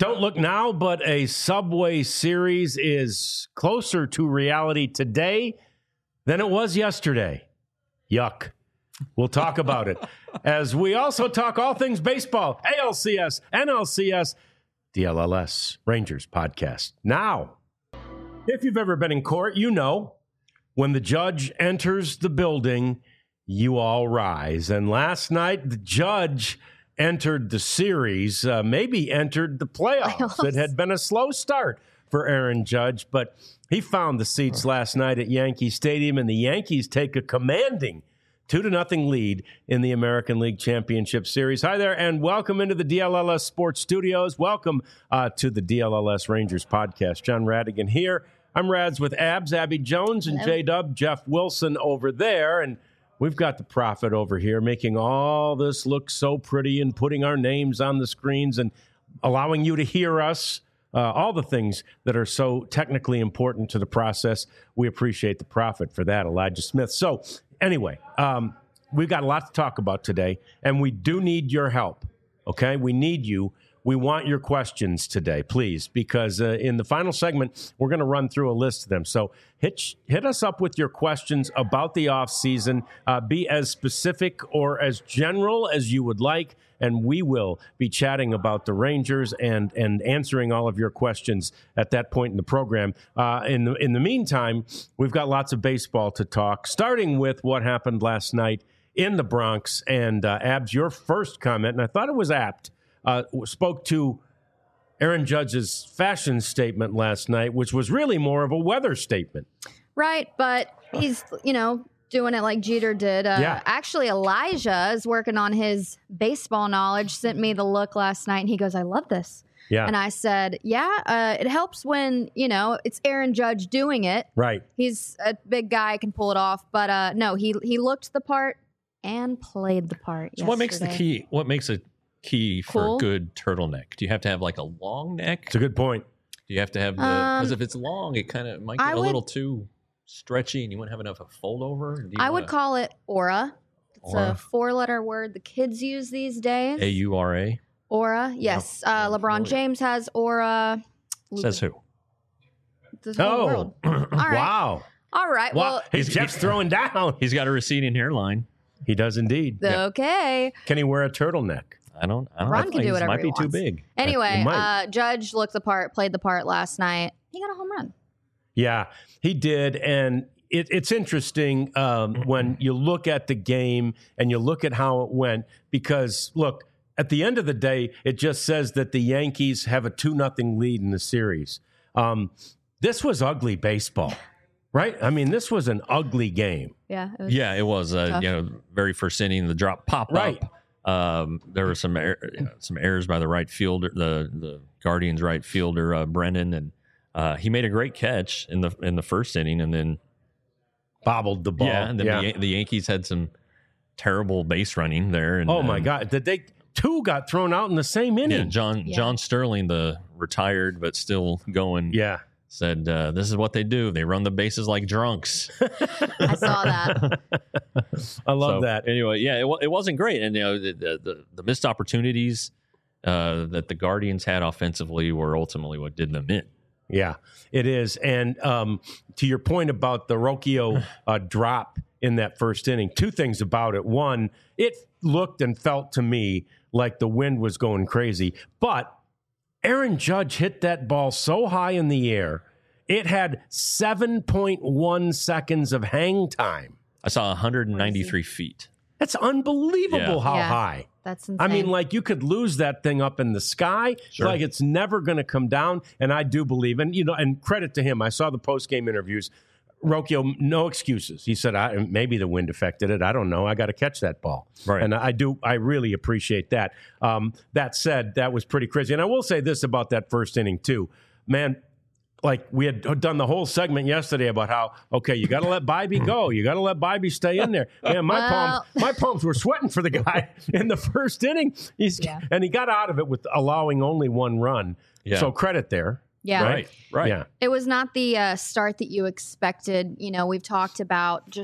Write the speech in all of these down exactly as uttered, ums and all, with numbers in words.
Don't look now, but a Subway Series is closer to reality today than it was yesterday. Yuck. We'll talk about it as we also talk all things baseball, A L C S, N L C S, D L L S, Rangers podcast. Now, if you've ever been in court, you know when the judge enters the building, you all rise. And last night, the judge entered the series, uh, maybe entered the playoffs. playoffs. It had been a slow start for Aaron Judge, but he found the seats last night at Yankee Stadium, and the Yankees take a commanding two to nothing lead in the American League Championship Series. Hi there, and welcome into the D L L S Sports Studios. Welcome uh, to the D L L S Rangers podcast. John Radigan here. I'm Rads with Abs, Abby Jones, and J-Dub, Jeff Wilson over there, and we've got the Prophet over here making all this look so pretty and putting our names on the screens and allowing you to hear us, uh, all the things that are so technically important to the process. We appreciate the Prophet for that, Elijah Smith. So anyway, um, we've got a lot to talk about today, and we do need your help, okay? We need you. We want your questions today, please, because uh, in the final segment, we're going to run through a list of them. So hit, hit us up with your questions about the offseason. Uh, be as specific or as general as you would like, and we will be chatting about the Rangers and and answering all of your questions at that point in the program. Uh, in, the, in the meantime, we've got lots of baseball to talk, starting with what happened last night in the Bronx. And uh, Abs, your first comment, and I thought it was apt, Uh, spoke to Aaron Judge's fashion statement last night, which was really more of a weather statement. Right, but he's, you know, doing it like Jeter did. Uh, yeah. Actually, Elijah is working on his baseball knowledge, sent me the look last night, and he goes, I love this. Yeah. And I said, yeah, uh, it helps when, you know, it's Aaron Judge doing it. Right. He's a big guy, can pull it off. But uh, no, he, he looked the part and played the part So yesterday. what makes the key? What makes a key for Cool. a good turtleneck? Do you have to have like a long neck? It's a good point. Do you have to have the because Um, if it's long, it kind of might get I a would- little too stretchy, and you wouldn't have enough of a fold over. Do you I would wanna- call it aura. It's Aura. a four-letter word the kids use these days. A U R A. Aura, yes. Yep. Uh, Yeah, LeBron familiar. James has aura. Says who? The whole Oh, world. All right. wow. All right. Wow. Well, Hey, He's- Jeff's throwing down. He's got a receding hairline. He does indeed. okay. Can he wear a turtleneck? I don't. I don't Ron know. can do It whatever might he be too wants. big. Anyway, He might. uh, Judge looked the part, played the part last night. He got a home run. Yeah, he did. And it, it's interesting um, when you look at the game and you look at how it went, because, look, at the end of the day, it just says that the Yankees have a two nothing lead in the series. Um, this was ugly baseball, right? I mean, this was an ugly game. Yeah. It was Yeah, it was. Uh, tough. you know, very first inning, the drop pop Right. up. Um, there were some er- you know, some errors by the right fielder, the the Guardians right fielder uh, Brennan, and uh, he made a great catch in the in the first inning, and then Bobbled the ball. yeah, and then The, Yan- the Yankees had some terrible base running there. And, Oh, my and, God. Did they two got thrown out in the same inning? Yeah, John Yeah. John Sterling, the retired but still going, Yeah. said uh, this is what they do. They run the bases like drunks. I saw that. I love So, that. Anyway, yeah, it, wa- it wasn't great, and you know the the, the missed opportunities uh, that the Guardians had offensively were ultimately what did them in. Yeah, it is. And um, to your point about the Rocchio uh, drop in that first inning, two things about it. One, it looked and felt to me like the wind was going crazy, but Aaron Judge hit that ball so high in the air, it had seven point one seconds of hang time. I saw one hundred ninety-three feet. That's unbelievable Yeah. how Yeah. high. That's insane. I mean, like, you could lose that thing up in the sky. Sure. Like, it's never going to come down. And I do believe, and, you know, and credit to him. I saw the post-game interviews. Rocchio, no excuses. He said, I, maybe the wind affected it. I don't know. I got to catch that ball. Right. And I do, I really appreciate that. Um, that said, that was pretty crazy. And I will say this about that first inning, too. Man, like, we had done the whole segment yesterday about how, okay, you got to let Bybee go. You got to let Bybee stay in there. Man, my Well- palms, my palms were sweating for the guy in the first inning. He's Yeah. and he got out of it with allowing only one run. Yeah. So credit there. yeah. Right, right. Yeah. It was not the uh, start that you expected. You know, we've talked about just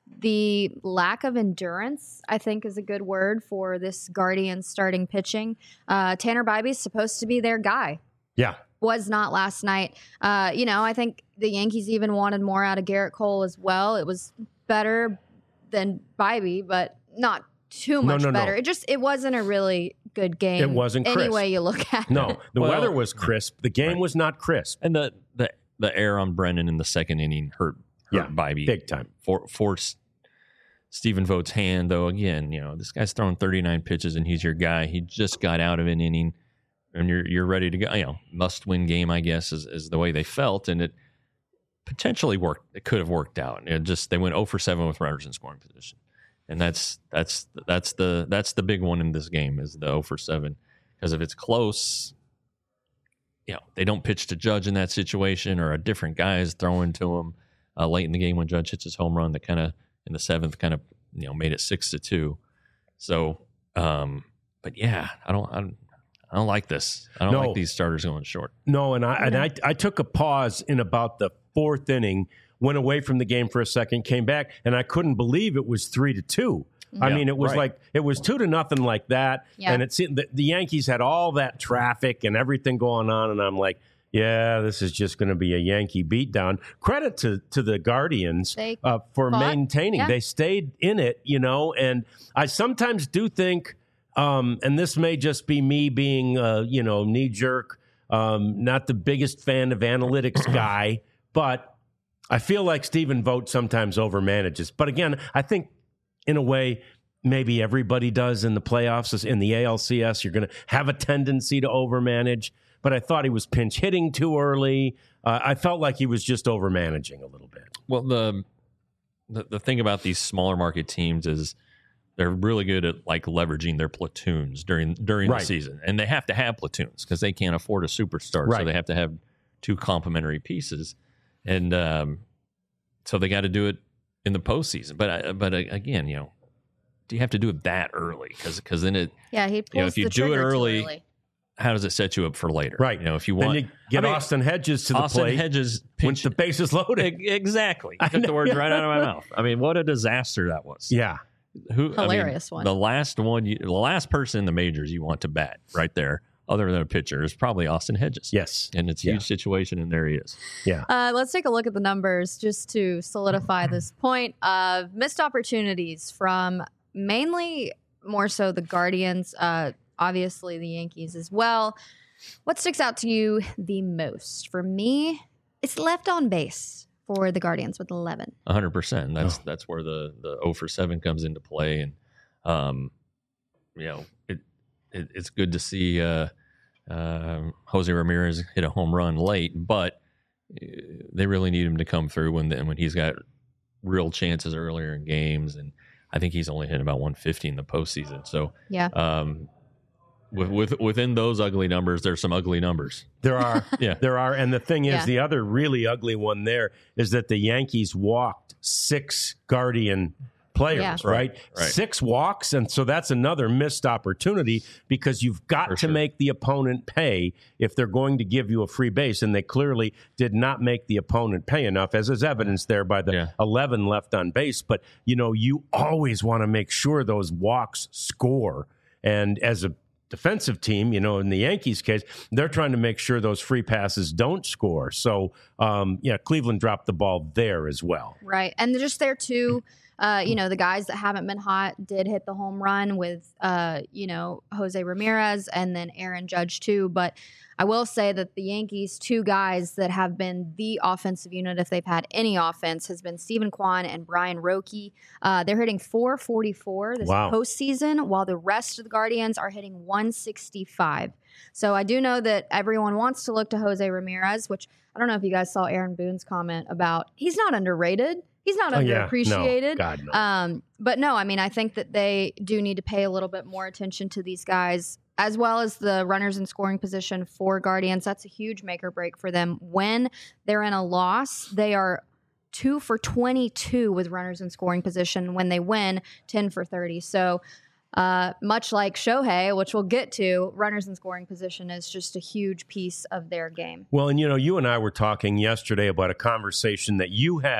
the lack of endurance, I think, is a good word for this Guardians starting pitching. Uh, Tanner Bybee's supposed to be their guy. Yeah. Was not last night. Uh, you know, I think the Yankees even wanted more out of Garrett Cole as well. It was better than Bybee, but not too much no, no, better. no. It just, it wasn't a really good game. It wasn't crisp. Any way you look at No, it. the Well, weather was crisp. The game right. was not crisp. And the the the air on Brennan in the second inning hurt, hurt Yeah, Bybee big time. For, forced Stephen Vogt's hand, though. Again, you know, this guy's throwing thirty-nine pitches and he's your guy. He just got out of an inning and you're you're ready to go. You know, must win game, I guess, is, is the way they felt. And it potentially worked. It could have worked out. It just they went zero for seven with runners in scoring position. And that's that's that's the that's the big one in this game is the zero for seven. Because if it's close, you know, they don't pitch to Judge in that situation, or a different guy is throwing to him uh, late in the game when Judge hits his home run that kind of in the seventh kind of, you know, made it six to two. So, um, but yeah, I don't, I don't, I don't like this. I don't No. like these starters going short. No, and I and I, I took a pause in about the fourth inning, went away from the game for a second, came back, and I couldn't believe it was three to two. I Yeah, mean, it was right. like it was two to nothing like that, Yeah. and it seemed the, the Yankees had all that traffic and everything going on, and I'm like, yeah, this is just going to be a Yankee beatdown. Credit to to the Guardians They uh, for fought. maintaining. Yeah. They stayed in it, you know, and I sometimes do think, um, and this may just be me being, uh, you know, knee jerk, um, not the biggest fan of analytics guy, but I feel like Stephen Vogt sometimes overmanages. But again, I think in a way, maybe everybody does in the playoffs. In the A L C S, you're going to have a tendency to overmanage. But I thought he was pinch hitting too early. Uh, I felt like he was just overmanaging a little bit. Well, the, the the thing about these smaller market teams is they're really good at like leveraging their platoons during during Right. the season, and they have to have platoons because they can't afford a superstar, Right. so they have to have two complementary pieces, and um, so they got to do it in the postseason. But I- but uh, again, you know, do you have to do it that early? Because because then it Yeah, he pulls You know, if you the do it trigger too early, early. how does it set you up for later? Right. You know, if you Then want you get I mean, Austin Hedges to the Austin plate Hedges with pinch the bases loaded. E- Exactly. I You took the know. words right out of my mouth. I mean, what a disaster that was. Yeah. Who, Hilarious I mean, one. The last one, you, the last person in the majors you want to bat right there, other than a pitcher, is probably Austin Hedges. Yes. And it's a Yeah. huge situation, and there he is. Yeah. Uh, let's take a look at the numbers just to solidify this point of missed opportunities from mainly more so the Guardians, uh, obviously the Yankees as well. What sticks out to you the most? For me, it's left on base for the Guardians with eleven. one hundred percent. That's Oh. that's where the, the zero for seven comes into play. And, um, you know, it, it it's good to see uh, um Jose Ramirez hit a home run late, but uh, they really need him to come through when the, when he's got real chances earlier in games. And I think he's only hit about one fifty in the postseason. So, Yeah. um, with, with within those ugly numbers, there's some ugly numbers. There are. Yeah. There are. And the thing is, Yeah. the other really ugly one there is that the Yankees walked six Guardian players, Yeah. right? Right, right. Six walks. And so that's another missed opportunity because you've got For to sure. make the opponent pay if they're going to give you a free base. And they clearly did not make the opponent pay enough, as is evidenced there by the Yeah. eleven left on base. But, you know, you always want to make sure those walks score. And as a defensive team, you know, in the Yankees case, they're trying to make sure those free passes don't score. So, um, yeah, Cleveland dropped the ball there as well. Right. And just there too, uh, you know, the guys that haven't been hot did hit the home run with, uh, you know, Jose Ramirez and then Aaron Judge too. But I will say that the Yankees, two guys that have been the offensive unit, if they've had any offense, has been Stephen Kwan and Brian Roque. Uh, they're hitting four forty-four this Wow. postseason, while the rest of the Guardians are hitting one sixty-five. So I do know that everyone wants to look to Jose Ramirez, which I don't know if you guys saw Aaron Boone's comment about he's not underrated. He's not Oh, yeah. underappreciated. No, God, no. Um, but no, I mean, I think that they do need to pay a little bit more attention to these guys, as well as the runners in scoring position for Guardians. That's a huge make or break for them. When they're in a loss, they are two for twenty-two with runners in scoring position. When they win, ten for thirty. So uh, much like Shohei, which we'll get to, runners in scoring position is just a huge piece of their game. Well, and, you know, you and I were talking yesterday about a conversation that you had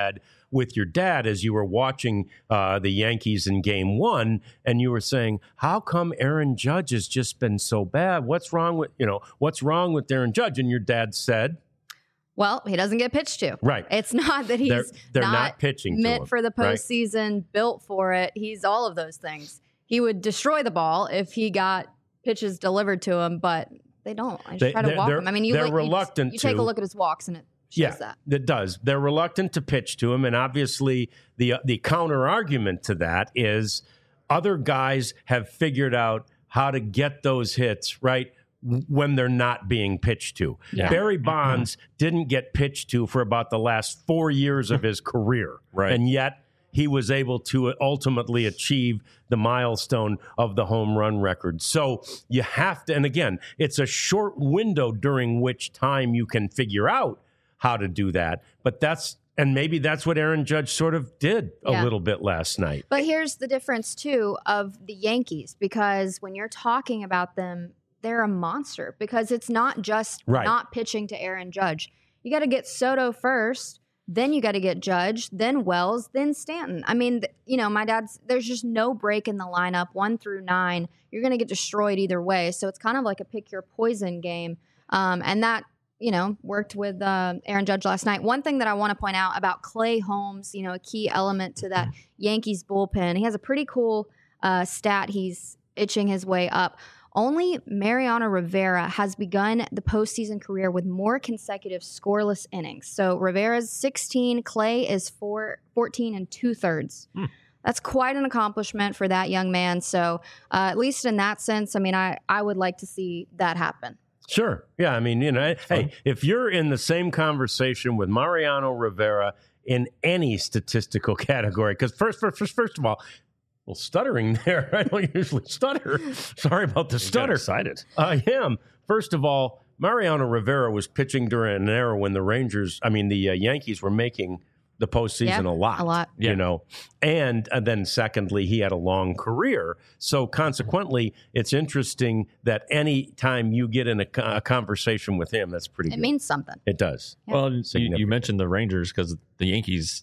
with your dad as you were watching uh, the Yankees in game one, and you were saying, how come Aaron Judge has just been so bad? What's wrong with, you know, what's wrong with Aaron Judge? And your dad said, well, he doesn't get pitched to. Right. It's not that he's they're, they're not, not pitching meant to him, for the right? postseason, built for it. He's all of those things. He would destroy the ball if he got pitches delivered to him, but they don't. I just They- try to they're- walk they're- him. I mean, you, they're look, you just- reluctant you take to. a look at his walks and it shows Yeah, that. it does. They're reluctant to pitch to him, and obviously the the counter argument to that is other guys have figured out how to get those hits right when they're not being pitched to. Yeah. Barry Bonds didn't get pitched to for about the last four years of his career, Right. and yet he was able to ultimately achieve the milestone of the home run record. So you have to, and again, it's a short window during which time you can figure out how to do that. But that's, and maybe that's what Aaron Judge sort of did a Yeah. little bit last night. But here's the difference, too, of the Yankees, because when you're talking about them, they're a monster because it's not just Right. not pitching to Aaron Judge. You got to get Soto first, then you got to get Judge, then Wells, then Stanton. I mean, th- you know, my dad's, there's just no break in the lineup, one through nine. You're going to get destroyed either way. So it's kind of like a pick your poison game. Um, and that, you know, worked with uh, Aaron Judge last night. One thing that I want to point out about Clay Holmes, you know, a key element to that Yankees bullpen, he has a pretty cool uh, stat. He's itching his way up. Only Mariano Rivera has begun the postseason career with more consecutive scoreless innings. So Rivera's sixteen, Clay is four, fourteen and two thirds. Hmm. That's quite an accomplishment for that young man. So uh, at least in that sense, I mean, I, I would like to see that happen. Sure. Yeah. I mean, you know, hey, if you're in the same conversation with Mariano Rivera in any statistical category, because first, first, first, first of all, well, stuttering there. I don't usually stutter. Sorry about the You got stutter. excited. I am. First of all, Mariano Rivera was pitching during an era when the Rangers, I mean, the uh, Yankees were making the postseason Yeah, a lot. a lot. You Yeah. know, and, and then secondly, he had a long career. So consequently, it's interesting that any time you get in a, co- a conversation with him, that's pretty It good. means something. It does. Yeah. Well, you, Significant. you mentioned the Rangers because the Yankees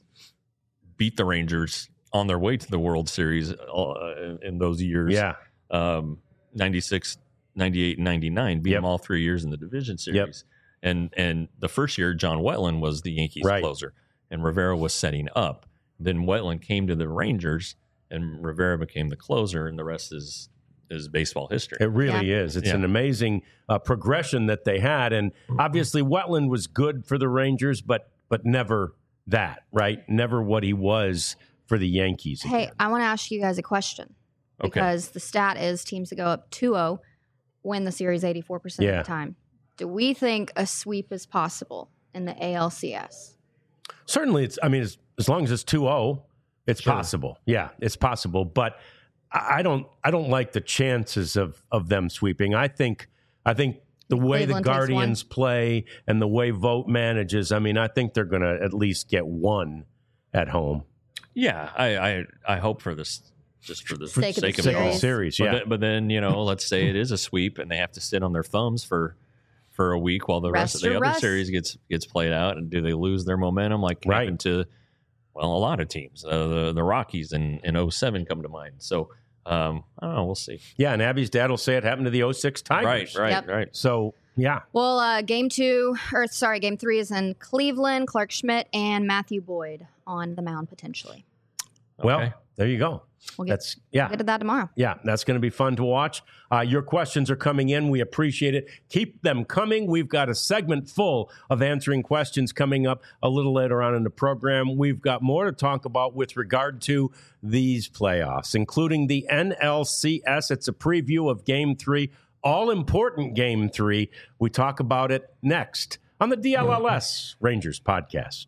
beat the Rangers on their way to the World Series uh, in those years. Yeah. Um, ninety-six, ninety-eight, and ninety-nine. Beat Yep. them all three years in the division series. And and the first year, John Wetland was the Yankees Right. closer, and Rivera was setting up. Then Wetland came to the Rangers, and Rivera became the closer, and the rest is is baseball history. It really is. It's Yeah. an amazing uh, progression that they had. And obviously, Wetland was good for the Rangers, but but never that, right? Never what he was for the Yankees. Hey, again. I want to ask you guys a question Okay. because the stat is teams that go up two oh win the series eighty-four percent Yeah. of the time. Do we think a sweep is possible in the A L C S? Certainly, it's. I mean, as, as long as it's two oh, it's Sure. possible. Yeah, it's possible. But I, I don't. I don't like the chances of of them sweeping. I think. I think the way Cleveland the takes Guardians play and the way Vogt manages. I mean, I think they're going to at least get one at home. Yeah, I, I I hope for this, just for the Sake sake, of the of it all. series. Series, But, yeah. then, but then you know, let's say it is a sweep, and they have to sit on their thumbs for for a week while the rest, Rest of the your other rust. series gets gets played out. And do they lose their momentum like Right. happened to well a lot of teams? Uh, the the Rockies in in oh seven come to mind. So um, I don't know. We'll see. Yeah, and Abby's dad will say it happened to the oh six Tigers. Right, right, Yep. right. So yeah, Well, uh, game two, or sorry, game three is in Cleveland. Clark Schmidt and Matthew Boyd on the mound potentially. well, Okay. there you go. We'll get, That's yeah. we'll get to that tomorrow. Yeah, that's going to be fun to watch. Uh, your questions are coming in. We appreciate it. Keep them coming. We've got a segment full of answering questions coming up a little later on in the program. We've got more to talk about with regard to these playoffs, including the N L C S. It's a preview of Game three, all-important Game three. We talk about it next on the D L L S Rangers podcast.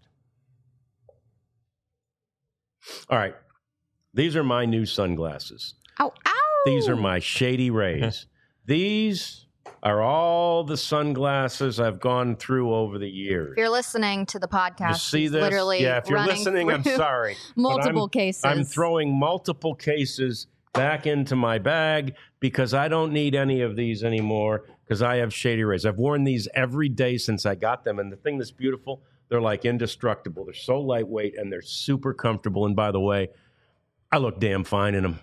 All right. These are my new sunglasses. Ow, ow! These are my Shady Rays. These are all the sunglasses I've gone through over the years. If you're listening to the podcast, You see he's this? literally Yeah, if you're running listening, I'm through sorry. But multiple I'm, cases. I'm throwing multiple cases back into my bag because I don't need any of these anymore. because I have Shady Rays. I've worn these every day since I got them. And the thing that's beautiful, they're like indestructible. They're so lightweight and they're super comfortable. And by the way, I look damn fine in them.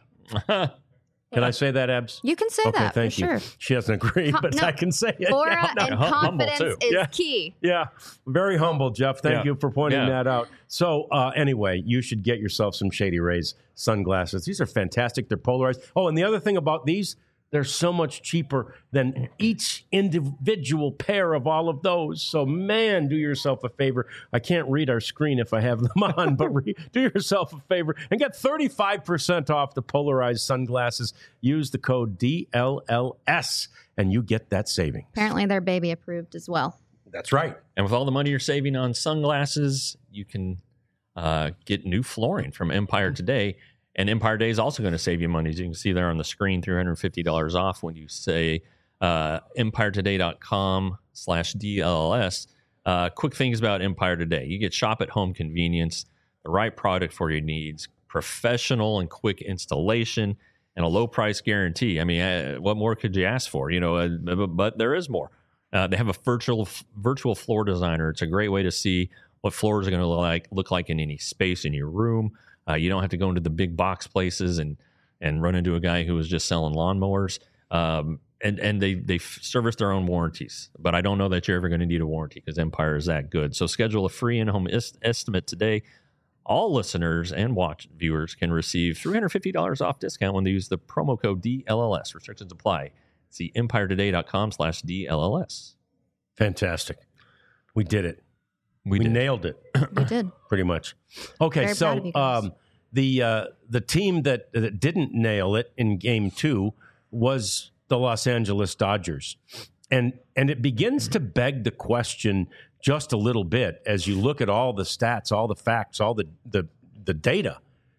Can I say that, Ebs? You can say okay, that. Thank for you. Sure. She doesn't agree, Com- but no. I can say it. Aura Yeah, no. and hum- confidence humble, too. is Yeah. key. Yeah, very humble, Jeff. Thank Yeah. you for pointing Yeah. that out. So, uh, anyway, you should get yourself some Shady Rays sunglasses. These are fantastic. They're polarized. Oh, and the other thing about these, they're so much cheaper than each individual pair of all of those. So, man, do yourself a favor. I can't read our screen if I have them on, but re- do yourself a favor and get thirty-five percent off the polarized sunglasses. Use the code D L L S, and you get that saving. Apparently, they're baby approved as well. That's right. And with all the money you're saving on sunglasses, you can uh, get new flooring from Empire Today. And Empire Day is also going to save you money. As you can see there on the screen, three hundred fifty dollars off when you say uh, empiretoday.com slash DLLS. Uh, quick things about Empire Today. You get shop-at-home convenience, the right product for your needs, professional and quick installation, and a low-price guarantee. I mean, uh, what more could you ask for? You know, uh, but, but there is more. Uh, they have a virtual virtual floor designer. It's a great way to see what floors are going to look like, look like in any space in your room. Uh, you don't have to go into the big box places and and run into a guy who was just selling lawnmowers. Um, and and they they service their own warranties. But I don't know that you're ever going to need a warranty because Empire is that good. So schedule a free in-home est- estimate today. All listeners and watch viewers can receive three hundred fifty dollars off discount when they use the promo code D L L S. Restrictions apply. See empiretoday.com slash DLLS. Fantastic. We did it. We, We did. nailed it. We did. Pretty much. Okay, Very proud so of you guys. um, the uh, the team that, that didn't nail it in game two was the Los Angeles Dodgers. And and it begins to beg the question just a little bit as you look at all the stats, all the facts, all the the, the data.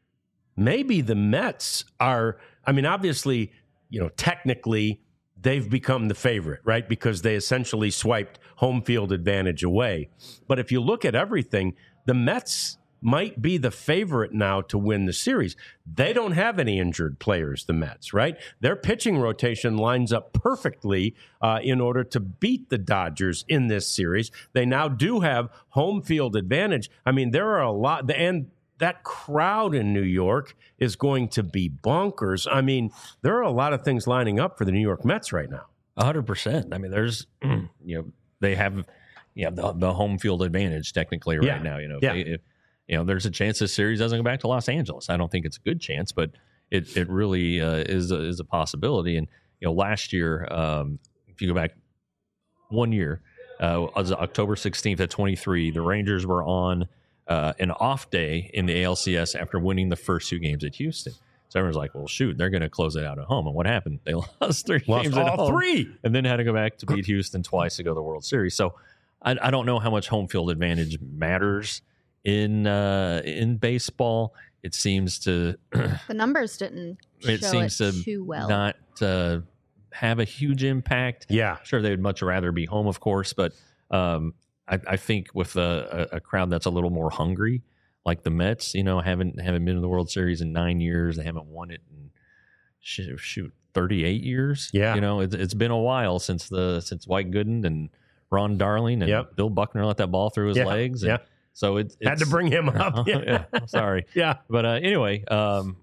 Maybe the Mets are, I mean, obviously, you know, technically they've become the favorite, right? Because they essentially swiped home field advantage away. But if you look at everything, the Mets might be the favorite now to win the series. They don't have any injured players, the Mets, right? Their pitching rotation lines up perfectly uh, in order to beat the Dodgers in this series. They now do have home field advantage. I mean, there are a lot, and that crowd in New York is going to be bonkers. I mean, there are a lot of things lining up for the New York Mets right now. A hundred percent. I mean, there's, you know, they have, you know, the, the home field advantage technically right Yeah. now. You know, if Yeah. they, if, you know, there's a chance this series doesn't go back to Los Angeles. I don't think it's a good chance, but it it really uh, is a, is a possibility. And you know, last year, um, if you go back one year, uh, it was October sixteenth at twenty-three, the Rangers were on uh, an off day in the A L C S after winning the first two games at Houston. So everyone's like, well, shoot, they're going to close it out at home. And what happened? They lost three Lost games at all home three. and then had to go back to beat Houston twice to go to the World Series. So I, I don't know how much home field advantage matters in uh, in baseball. It seems to The numbers didn't show it seems it to too well. not uh, have a huge impact. Yeah. Sure, they would much rather be home, of course, but um, I, I think with a, a, a crowd that's a little more hungry, like the Mets, you know, haven't haven't been to the World Series in nine years. They haven't won it in shoot, shoot thirty-eight years. Yeah. you know, it's it's been a while since the since White Gooden and Ron Darling and Yep. Bill Buckner let that ball through his Yeah. legs. And Yeah. so it, it's Had to bring him up. yeah, sorry. Yeah. But uh, anyway, um,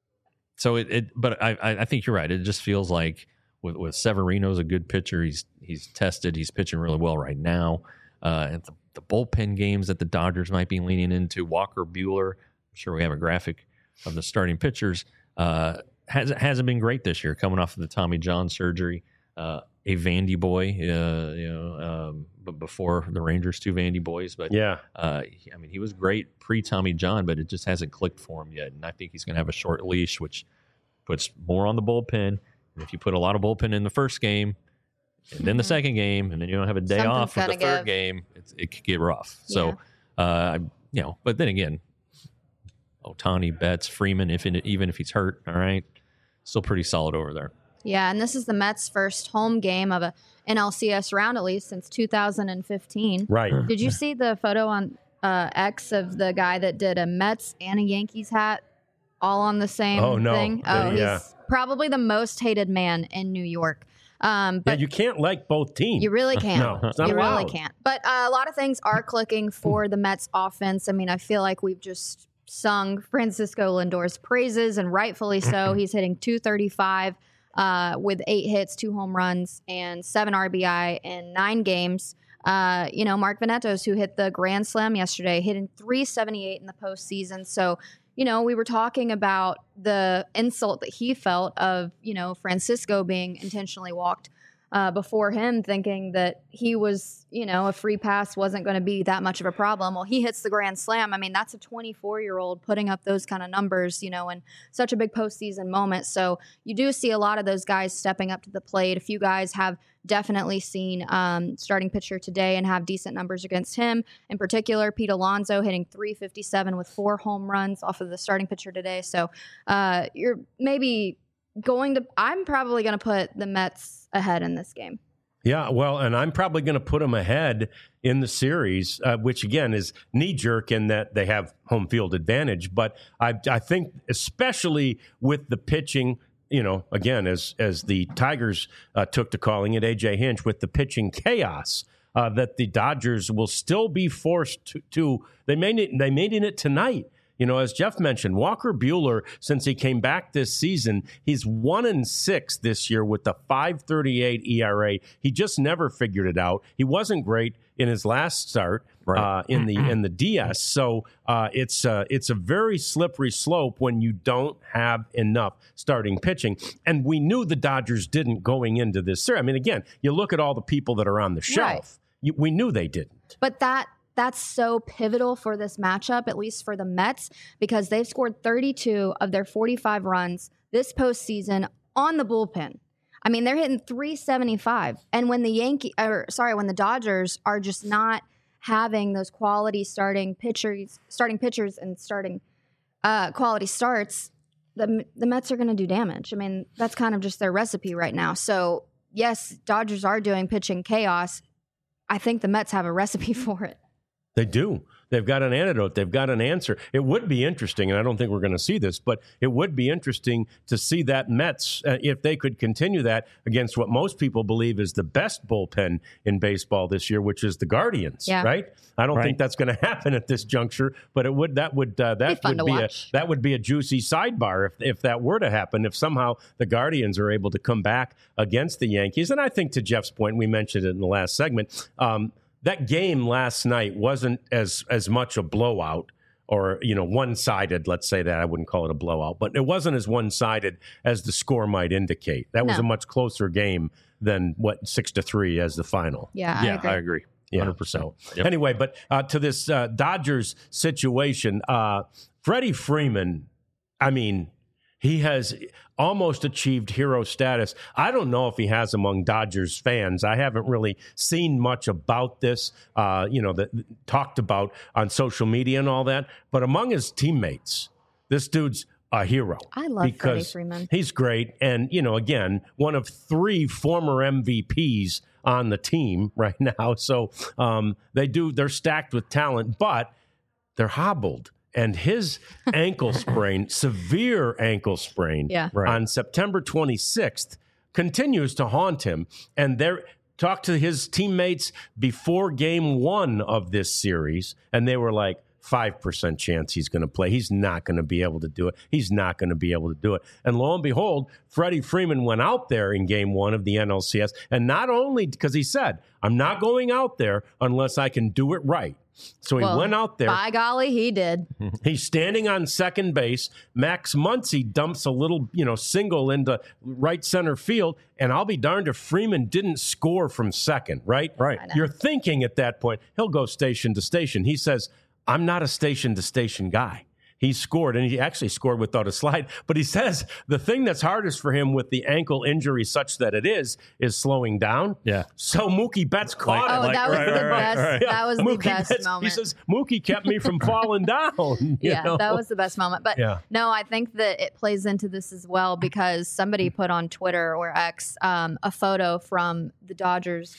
so it, it but I, I I think you're right. It just feels like with with Severino's a good pitcher. He's he's tested. He's pitching really well right now. Uh, and the, the bullpen games that the Dodgers might be leaning into. Walker Buehler. I'm sure we have a graphic of the starting pitchers. Uh, hasn't hasn't been great this year. Coming off of the Tommy John surgery. Uh, a Vandy boy, uh, you know, um, but before the Rangers, two Vandy boys. But Yeah. uh, he- I mean, he was great pre Tommy John, but it just hasn't clicked for him yet. And I think he's going to have a short leash, which puts more on the bullpen. And if you put a lot of bullpen in the first game, and then the second game, and then you don't have a day Something's off for the gotta third give. game, it's, it could get rough. So, uh, you know, but then again, Ohtani, Betts, Freeman, if it, even if he's hurt, all right, still pretty solid over there. Yeah, and this is the Mets' first home game of a N L C S round, at least since two thousand fifteen. Right. Did you see the photo on uh, X of the guy that did a Mets and a Yankees hat all on the same Oh, no. thing? Uh, Oh, yeah. he's probably the most hated man in New York. Um, but yeah, you can't like both teams. you really can't. No, it's not you allowed. really can't. But uh, a lot of things are clicking for the Mets offense. I mean, I feel like we've just sung Francisco Lindor's praises, and rightfully so. He's hitting two thirty-five uh, with eight hits, two home runs, and seven R B I in nine games. Uh, you know, Mark Venetos, who hit the grand slam yesterday, hitting three seventy-eight in the postseason. So, you know, we were talking about the insult that he felt of, you know, Francisco being intentionally walked uh, before him, thinking that he was, you know, a free pass wasn't going to be that much of a problem. Well, he hits the grand slam. I mean, that's a twenty-four-year-old putting up those kind of numbers, you know, in such a big postseason moment. So you do see a lot of those guys stepping up to the plate. A few guys have definitely seen um, starting pitcher today and have decent numbers against him. In particular, Pete Alonso hitting three fifty-seven with four home runs off of the starting pitcher today. So uh, you're maybe going to, I'm probably going to put the Mets ahead in this game. Yeah, well, and I'm probably going to put them ahead in the series, uh, which again is knee-jerk in that they have home field advantage. But I, I think especially with the pitching, you know, again, as as the Tigers uh, took to calling it, A J Hinch, with the pitching chaos, uh, that the Dodgers will still be forced to, to they made it, they made it tonight. You know, as Jeff mentioned, Walker Buehler, since he came back this season, he's one and six this year with the five thirty-eight E R A. He just never figured it out. He wasn't great in his last start Right. uh, in the in the D S. So uh, it's uh, it's a very slippery slope when you don't have enough starting pitching. And we knew the Dodgers didn't going into this series. I mean, again, you look at all the people that are on the shelf. Right. You, we knew they didn't. But that that's so pivotal for this matchup, at least for the Mets, because they've scored thirty-two of their forty-five runs this postseason on the bullpen. I mean, they're hitting three seventy-five. And when the Yankee, or sorry, when the Dodgers are just not having those quality starting pitchers, starting pitchers and starting uh, quality starts, the the Mets are going to do damage. I mean, that's kind of just their recipe right now. So yes, Dodgers are doing pitching chaos. I think the Mets have a recipe for it. They do. They've got an antidote. They've got an answer. It would be interesting, and I don't think we're going to see this, but it would be interesting to see that Mets, uh, if they could continue that against what most people believe is the best bullpen in baseball this year, which is the Guardians, Yeah. right? I don't Right. think that's going to happen at this juncture, but it would. That would uh, that fun would to be a watch. that would be a juicy sidebar if if that were to happen. If somehow the Guardians are able to come back against the Yankees, and I think to Jeff's point, we mentioned it in the last segment. Um, That game last night wasn't as as much a blowout or, you know, one-sided, let's say that. I wouldn't call it a blowout, but it wasn't as one-sided as the score might indicate. That was No. a much closer game than, what, six to three as the final. Yeah, I yeah, agree. I agree. Yeah, one hundred percent. so Yep. anyway, but uh, to this uh, Dodgers situation, uh, Freddie Freeman, I mean, he has almost achieved hero status. I don't know if he has among Dodgers fans. I haven't really seen much about this, uh, you know, that talked about on social media and all that. But among his teammates, this dude's a hero. I love Freddie because Freeman. He's great. And, you know, again, one of three former M V Ps on the team right now. So um, they do, they're stacked with talent, but they're hobbled. And his ankle sprain, severe ankle sprain, Yeah. Right. on September twenty-sixth continues to haunt him. And they're talked to his teammates before game one of this series, and they were like, five percent chance he's going to play. He's not going to be able to do it. He's not going to be able to do it. And lo and behold, Freddie Freeman went out there in game one of the N L C S. And not only because he said, I'm not going out there unless I can do it right. So he Well, went out there. By golly, he did. He's standing on second base. Max Muncy dumps a little, you know, single into right center field. And I'll be darned if Freeman didn't score from second, right? Right. I know. You're thinking at that point, he'll go station to station. He says, I'm not a station to station guy. He scored, and he actually scored without a slide. But he says the thing that's hardest for him with the ankle injury, such that it is, is slowing down. Yeah. So Mookie Betts caught Like- him. Oh, like- that was right, the right, best. right. That was the Mookie best Betts, moment. He says, Mookie kept me from falling down. you yeah, know? that was the best moment. But Yeah. no, I think that it plays into this as well because somebody put on Twitter or X um, a photo from the Dodgers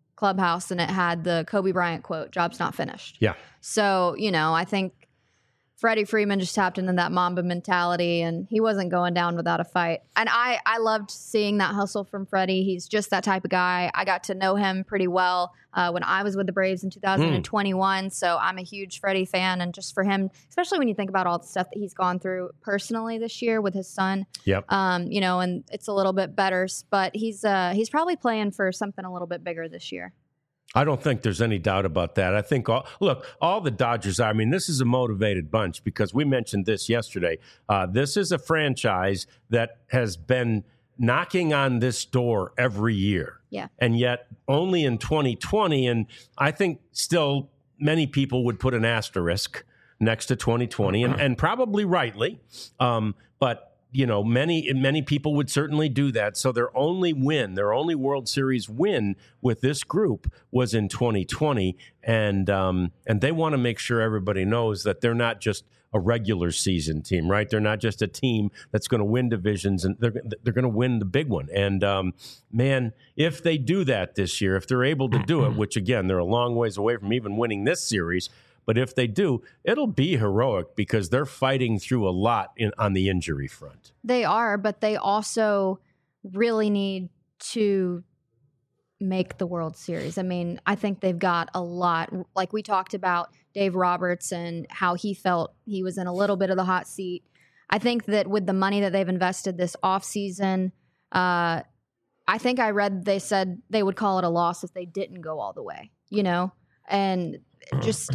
clubhouse, and it had the Kobe Bryant quote, "Job's not finished." Yeah. So, you know, I think Freddie Freeman just tapped into that Mamba mentality, and he wasn't going down without a fight. And I, I loved seeing that hustle from Freddie. He's just that type of guy. I got to know him pretty well uh, when I was with the Braves in two thousand twenty-one. Mm. So I'm a huge Freddie fan. And just for him, especially when you think about all the stuff that he's gone through personally this year with his son, yep. um, you know, and it's a little bit better. But he's uh, he's probably playing for something a little bit bigger this year. I don't think there's any doubt about that. I think, all, look, all the Dodgers are, I mean, this is a motivated bunch because we mentioned this yesterday. Uh, this is a franchise that has been knocking on this door every year. Yeah. And yet only in twenty twenty, and I think still many people would put an asterisk next to twenty twenty, and, and probably rightly. Um, but You know, many many people would certainly do that. So their only win, their only World Series win with this group was in twenty twenty, and um, and they want to make sure everybody knows that they're not just a regular season team, right? They're not just a team that's going to win divisions, and they're they're going to win the big one. And um, man, if they do that this year, if they're able to do it, which again they're a long ways away from even winning this series. But if they do, it'll be heroic because they're fighting through a lot in, on the injury front. They are, but they also really need to make the World Series. I mean, I think they've got a lot. Like we talked about Dave Roberts and how he felt he was in a little bit of the hot seat. I think that with the money that they've invested this offseason, uh, I think I read they said they would call it a loss if they didn't go all the way, you know? And just...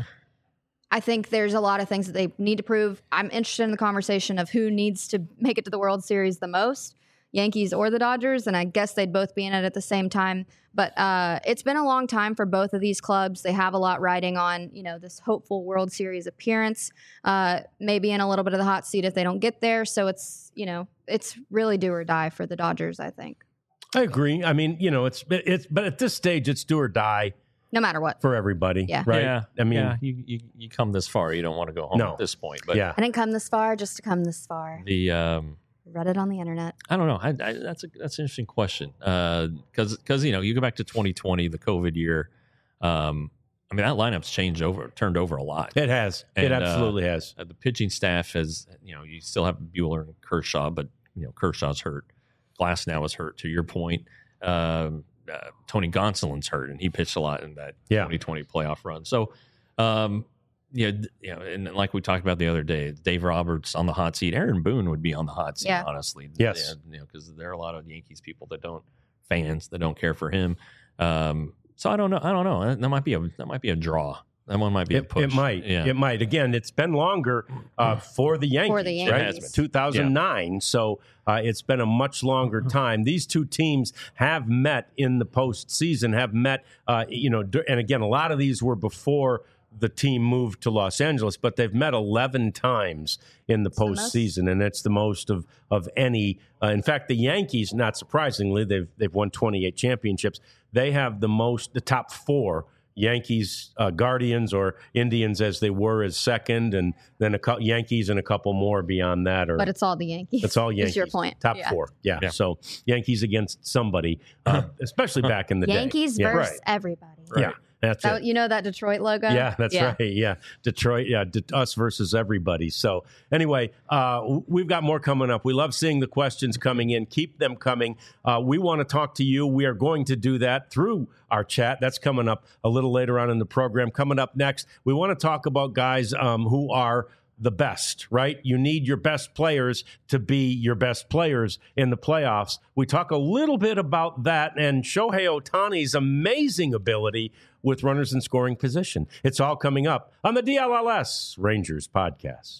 I think there's a lot of things that they need to prove. I'm interested in the conversation of who needs to make it to the World Series the most, Yankees or the Dodgers, and I guess they'd both be in it at the same time. But uh, it's been a long time for both of these clubs. They have a lot riding on, you know, this hopeful World Series appearance, uh, maybe in a little bit of the hot seat if they don't get there. So it's, you know, it's really do or die for the Dodgers, I think. I agree. I mean, you know, it's it's but at this stage, it's do or die. No matter what. For everybody. Yeah. Right. Yeah. I mean, yeah. You, you you come this far, you don't want to go home No. at this point. But yeah. I didn't come this far just to come this far. the um, Read it on the internet. I don't know. I, I, that's a that's an interesting question. Because uh, because you know you go back to twenty twenty, the COVID year. Um, I mean that lineup's changed over, turned over a lot. It has. And, it absolutely uh, has. Uh, the pitching staff has, you know, you still have Buehler and Kershaw, but you know Kershaw's hurt. Glass now is hurt. To your point. Um, Uh, Tony Gonsolin's hurt, and he pitched a lot in that yeah. twenty twenty playoff run. So, um, yeah, you know, and like we talked about the other day, Dave Roberts on the hot seat. Aaron Boone would be on the hot seat, yeah. honestly. Yes, yeah, you know, because there are a lot of Yankees people that don't fans that don't care for him. Um, so I don't know. I don't know. That might be a that might be a draw. That one might be it, a push. It might. Yeah. It might. Again, it's been longer uh, for the Yankees. For the Yankees. Right? two thousand nine. Yeah. So uh, it's been a much longer time. These two teams have met in the postseason, have met, uh, you know, and again, a lot of these were before the team moved to Los Angeles, but they've met eleven times in the postseason, and it's the most of of any. Uh, in fact, the Yankees, not surprisingly, they've they've won twenty-eight championships. They have the most, the top four. Yankees, uh, Guardians, or Indians as they were as second, and then a co- Yankees and a couple more beyond that. Or, but it's all the Yankees. It's all Yankees. Is your point. Top yeah. four. Yeah. yeah. So Yankees against somebody, uh, especially back in the Yankees day. Yankees versus yeah. everybody. Right. Yeah. That's that, it. You know that Detroit logo? Yeah, that's yeah. right. Yeah, Detroit. Yeah, de- us versus everybody. So anyway, uh, we've got more coming up. We love seeing the questions coming in. Keep them coming. Uh, we want to talk to you. We are going to do that through our chat. That's coming up a little later on in the program. Coming up next, we want to talk about guys um, who are the best, right? You need your best players to be your best players in the playoffs. We talk a little bit about that and Shohei Ohtani's amazing ability with runners in scoring position. It's all coming up on the D L L S Rangers podcast.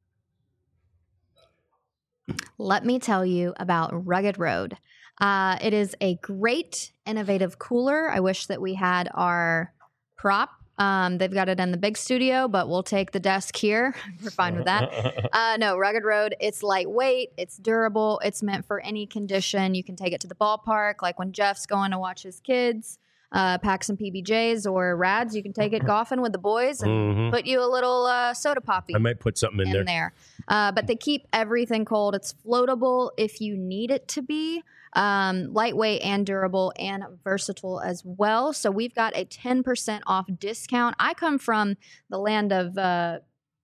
Let me tell you about Rugged Road. Uh, it is a great, innovative cooler. I wish that we had our prop. Um, they've got it in the big studio, but we'll take the desk here. We're fine with that. Uh, no, Rugged Road, it's lightweight, it's durable, it's meant for any condition. You can take it to the ballpark, like when Jeff's going to watch his kids, uh, pack some P B Js or Rads. You can take it golfing with the boys and mm-hmm. put you a little uh, soda poppy. I might put something in, in there. there. Uh, but they keep everything cold. It's floatable if you need it to be. Um, lightweight and durable and versatile as well. So we've got a ten percent off discount. I come from the land of uh,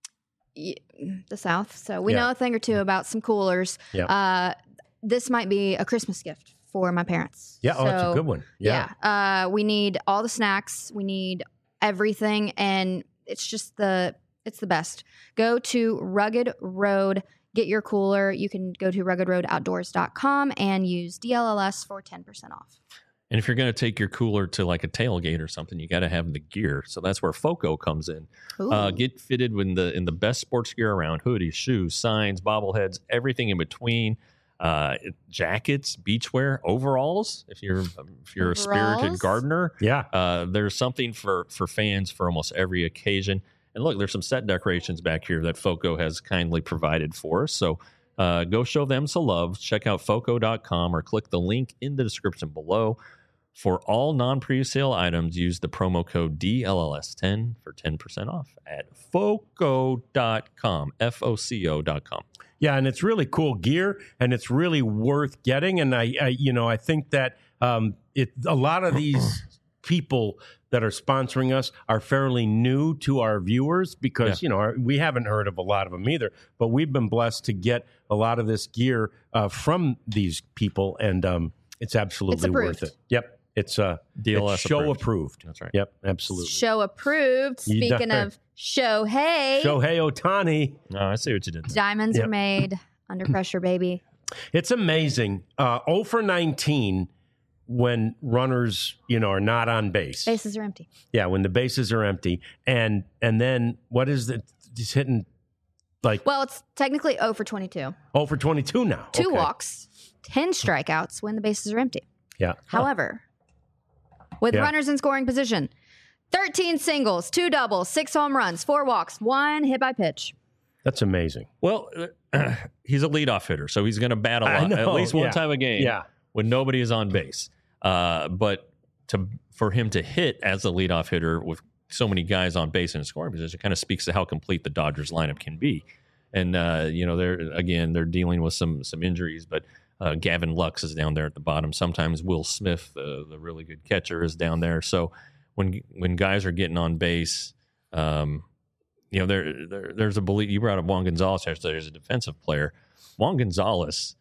y- the South, so we Yeah. know a thing or two about some coolers. Yeah. Uh, this might be a Christmas gift for my parents. Yeah, oh, that's a So, good one. Yeah. Yeah. Uh, we need all the snacks. We need everything, and it's just the it's the best. Go to Rugged Road. Get your cooler. You can go to rugged road outdoors dot com and use D L L S for ten percent off. And if you're going to take your cooler to like a tailgate or something, you got to have the gear. So that's where FOCO comes in. Uh, Ooh. get fitted in the in the best sports gear around: hoodies, shoes, signs, bobbleheads, everything in between. Uh, jackets, beachwear, overalls. If you're if you're a spirited Overalls? gardener, Yeah. uh, there's something for for fans for almost every occasion. And look, there's some set decorations back here that FOCO has kindly provided for us. So uh, go show them some love. Check out foco dot com or click the link in the description below. For all non-pre-sale items, use the promo code D L L S ten for ten percent off at foco dot com, F O C O dot com. Yeah, and it's really cool gear, and it's really worth getting. And I, I you know, I think that um, it a lot of these people that are sponsoring us are fairly new to our viewers because Yeah. you know our, we haven't heard of a lot of them either. But we've been blessed to get a lot of this gear uh, from these people, and um, it's absolutely approved. worth it. Yep, it's uh, D L S it's show approved. approved. That's right. Yep, absolutely. Show approved. You Speaking done- of Shohei, Shohei Ohtani. No, I see what you did there. diamonds Yep. are made under pressure, baby. It's amazing. Uh, zero for nineteen when runners, you know, are not on base. Bases are empty. Yeah, when the bases are empty, and and then what is it? He's hitting like Well, it's technically zero for twenty-two. zero for twenty-two now. Two Okay. walks, ten strikeouts when the bases are empty. Yeah. However, with Yeah. runners in scoring position, thirteen singles, two doubles, six home runs, four walks, one hit by pitch. That's amazing. Well, uh, he's a leadoff hitter, so he's going to bat a I lot, know, at least one yeah. time a game Yeah. when nobody is on base. Uh, but to for him to hit as a leadoff hitter with so many guys on base in a scoring position kind of speaks to how complete the Dodgers lineup can be. And uh, you know, they're again they're dealing with some some injuries, but uh, Gavin Lux is down there at the bottom. Sometimes Will Smith, the the really good catcher, is down there. So when when guys are getting on base, um, you know, there, there there's a belief. You brought up Juan Gonzalez yesterday as a defensive player. Juan Gonzalez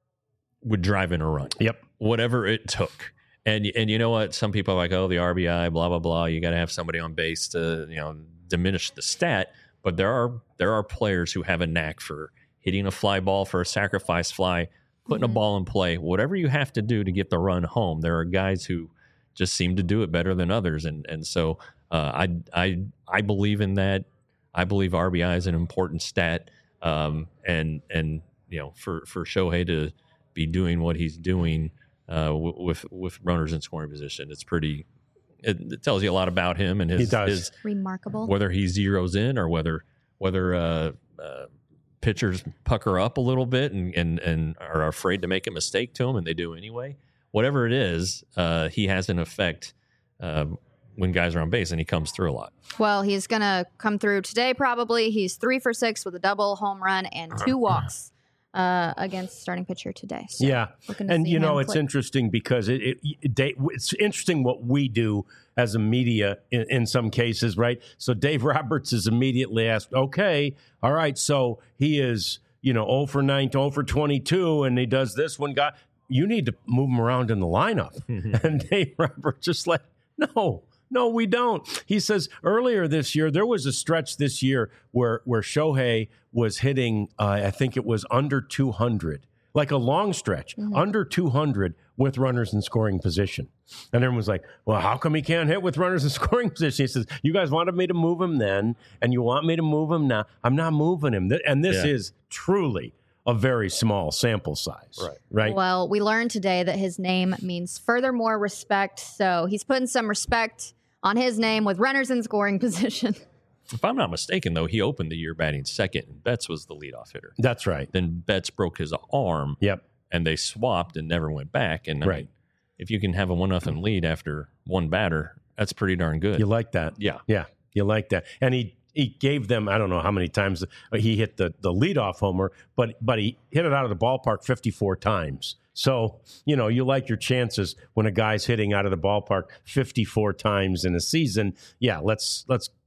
would drive in a run. Yep. Whatever it took. And and you know what? Some people are like, oh, the R B I, blah blah blah. You got to have somebody on base to you know diminish the stat. But there are there are players who have a knack for hitting a fly ball for a sacrifice fly, putting Mhm. a ball in play. Whatever you have to do to get the run home. There are guys who just seem to do it better than others. And and so uh, I I I believe in that. I believe R B I is an important stat. Um, and and you know for for Shohei to be doing what he's doing. Uh, w- with with runners in scoring position, it's pretty. It, it tells you a lot about him and his, He does. his Remarkable. whether he zeroes in or whether whether uh, uh, pitchers pucker up a little bit and, and and are afraid to make a mistake to him, and they do anyway. Whatever it is, uh, he has an effect uh, when guys are on base, and he comes through a lot. Well, he's going to come through today probably. He's three for six with a double home run and two walks uh, against starting pitcher today. So Yeah. looking to And see you know him it's click. interesting because it, it, it Dave, it's interesting what we do as a media in, in some cases, right? So Dave Roberts is immediately asked, okay, all right, so he is you know zero for nine, zero for twenty-two, and he does this one guy. You need to move him around in the lineup. And Dave Roberts just like, no. No, we don't. He says earlier this year, there was a stretch this year where where Shohei was hitting, uh, I think it was under two hundred, like a long stretch, Mhm. under two hundred with runners in scoring position. And everyone was like, well, how come he can't hit with runners in scoring position? He says, you guys wanted me to move him then, and you want me to move him now. I'm not moving him. Th- And this Yeah. is truly a very small sample size. Right. Right. Well, we learned today that his name means furthermore respect. So he's putting some respect on his name with runners in scoring position. If I'm not mistaken, though, he opened the year batting second, and Betts was the leadoff hitter. That's right. Then Betts broke his arm, Yep. and they swapped and never went back. And I Right. mean, if you can have a one nothing lead after one batter, that's pretty darn good. You like that? yeah. Yeah, you like that. And he he gave them, I don't know how many times he hit the, the leadoff homer, but but he hit it out of the ballpark fifty-four times. So, you know, you like your chances when a guy's hitting out of the ballpark fifty-four times in a season. Yeah, let's let's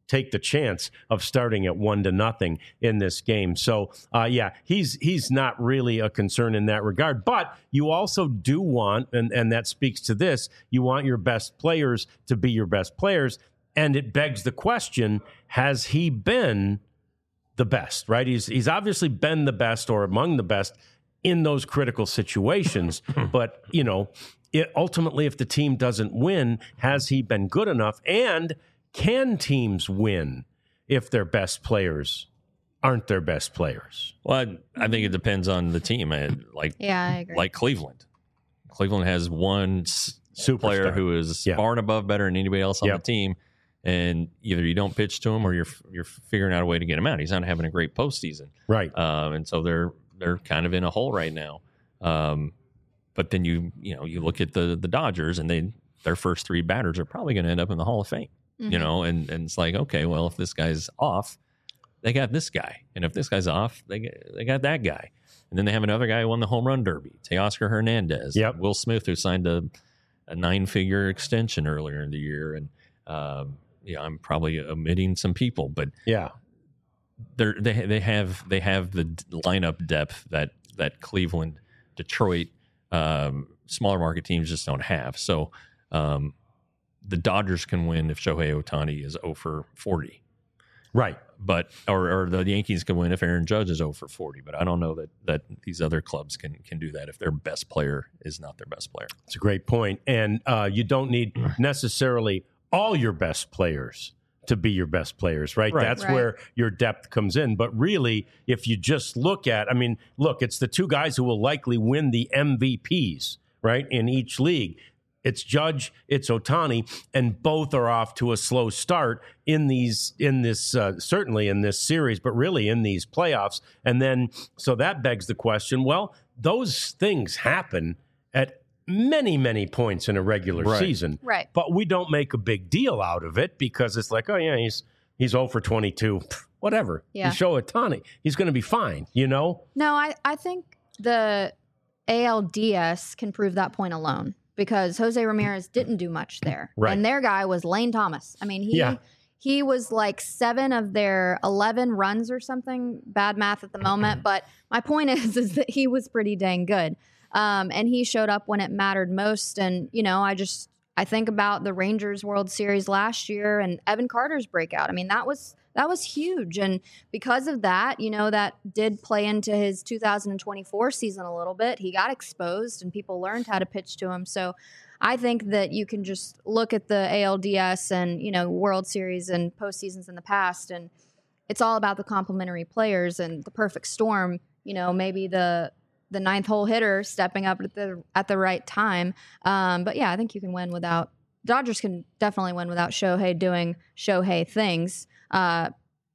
take the chance of starting at one to nothing in this game. So, uh, yeah, he's he's not really a concern in that regard. But you also do want, and, and that speaks to this, you want your best players to be your best players. And it begs the question, has he been the best, right? He's he's obviously been the best or among the best in those critical situations. But, you know, it, ultimately, if the team doesn't win, has he been good enough? And can teams win if their best players aren't their best players? Well, I, I think it depends on the team. I, like, Yeah, I agree. like Cleveland. Cleveland has one s- player Superstar. who is Yeah. far and above better than anybody else on Yep. the team. And either you don't pitch to him or you're you're figuring out a way to get him out. He's not having a great postseason. Right. Um, and so they're they're kind of in a hole right now. Um, but then you you know you look at the the Dodgers and they their first three batters are probably going to end up in the Hall of Fame. Mhm. You know, and and it's like, okay, well, if this guy's off, they got this guy, and if this guy's off, they got, they got that guy, and then they have another guy who won the home run derby, Teoscar Hernandez, Yep. Will Smith, who signed a, a nine figure extension earlier in the year, and um, yeah, I'm probably omitting some people, but Yeah. they're, they they have they have the d- lineup depth that that Cleveland, Detroit, um, smaller market teams just don't have. So um, the Dodgers can win if Shohei Ohtani is zero for forty, Right. but or, or the Yankees can win if Aaron Judge is zero for forty. But I don't know that that these other clubs can can do that if their best player is not their best player. It's a great point. And uh, you don't need necessarily all your best players to be your best players, right? Right. That's Right. where your depth comes in. But really, if you just look at, I mean, look, it's the two guys who will likely win the M V Ps, right, in each league. It's Judge, it's Ohtani, and both are off to a slow start in these, in this, uh, certainly in this series, but really in these playoffs. And then, so that begs the question, well, those things happen at many, many points in a regular Right. season. Right. But we don't make a big deal out of it because it's like, oh, yeah, he's he's zero for twenty-two. Pfft, whatever. Yeah. You show Ohtani, he's going to be fine, you know? No, I, I think the A L D S can prove that point alone because Jose Ramirez didn't do much there. Right. And their guy was Lane Thomas. I mean, he Yeah. he was like seven of their eleven runs or something. Bad math at the moment. But my point is, is that he was pretty dang good. Um, and he showed up when it mattered most. And, you know, I just, I think about the Rangers World Series last year and Evan Carter's breakout. I mean, that was, that was huge. And because of that, you know, that did play into his two thousand twenty-four season a little bit. He got exposed and people learned how to pitch to him. So I think that you can just look at the A L D S and, you know, World Series and postseasons in the past, and it's all about the complementary players and the perfect storm. You know, maybe the the ninth hole hitter stepping up at the at the right time. Um, but yeah, I think you can win without Dodgers can definitely win without Shohei doing Shohei things. Uh,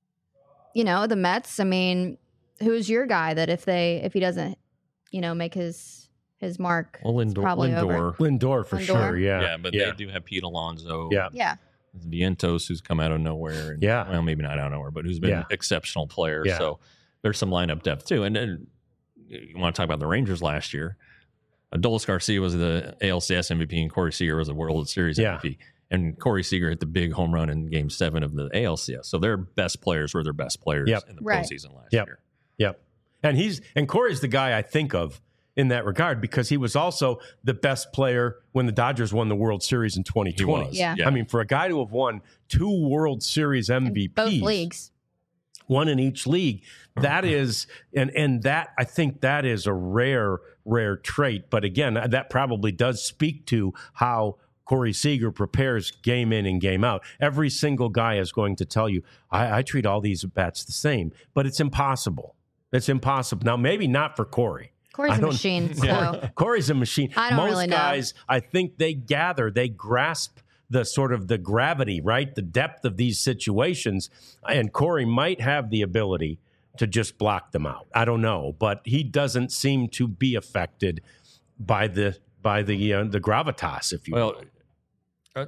you know, the Mets. I mean, who's your guy that if they if he doesn't, you know, make his his mark, Well, it's Lindor, probably over. Lindor Lindor for Lindor? sure, yeah. yeah, but yeah. they do have Pete Alonso. Yeah. Yeah, Vientos, who's come out of nowhere. And, Yeah. Well, maybe not out of nowhere, but who's been Yeah. an exceptional player. Yeah. So there's some lineup depth too. And then you want to talk about the Rangers last year. Adolis Garcia was the A L C S M V P and Corey Seager was the World Series Yeah. M V P. And Corey Seager hit the big home run in game seven of the A L C S. So their best players were their best players Yep. in the Right. postseason last Yep. year. Yep. And he's and Corey's the guy I think of in that regard because he was also the best player when the Dodgers won the World Series in twenty He twenty. was. Yeah. I mean, for a guy to have won two World Series in M V Ps, both leagues. one in each league, that is, and and that I think that is a rare, rare trait. But again, that probably does speak to how Corey Seager prepares game in and game out. Every single guy is going to tell you, I, I treat all these bats the same, but it's impossible. It's impossible. Now, maybe not for Corey. Corey's I a don't- machine. So Corey- Corey's a machine. I don't Most really know. guys, I think they gather, they grasp the sort of the gravity, right? The depth of these situations. And Corey might have the ability to just block them out. I don't know, but he doesn't seem to be affected by the by the uh, the gravitas, if you Well, will. uh,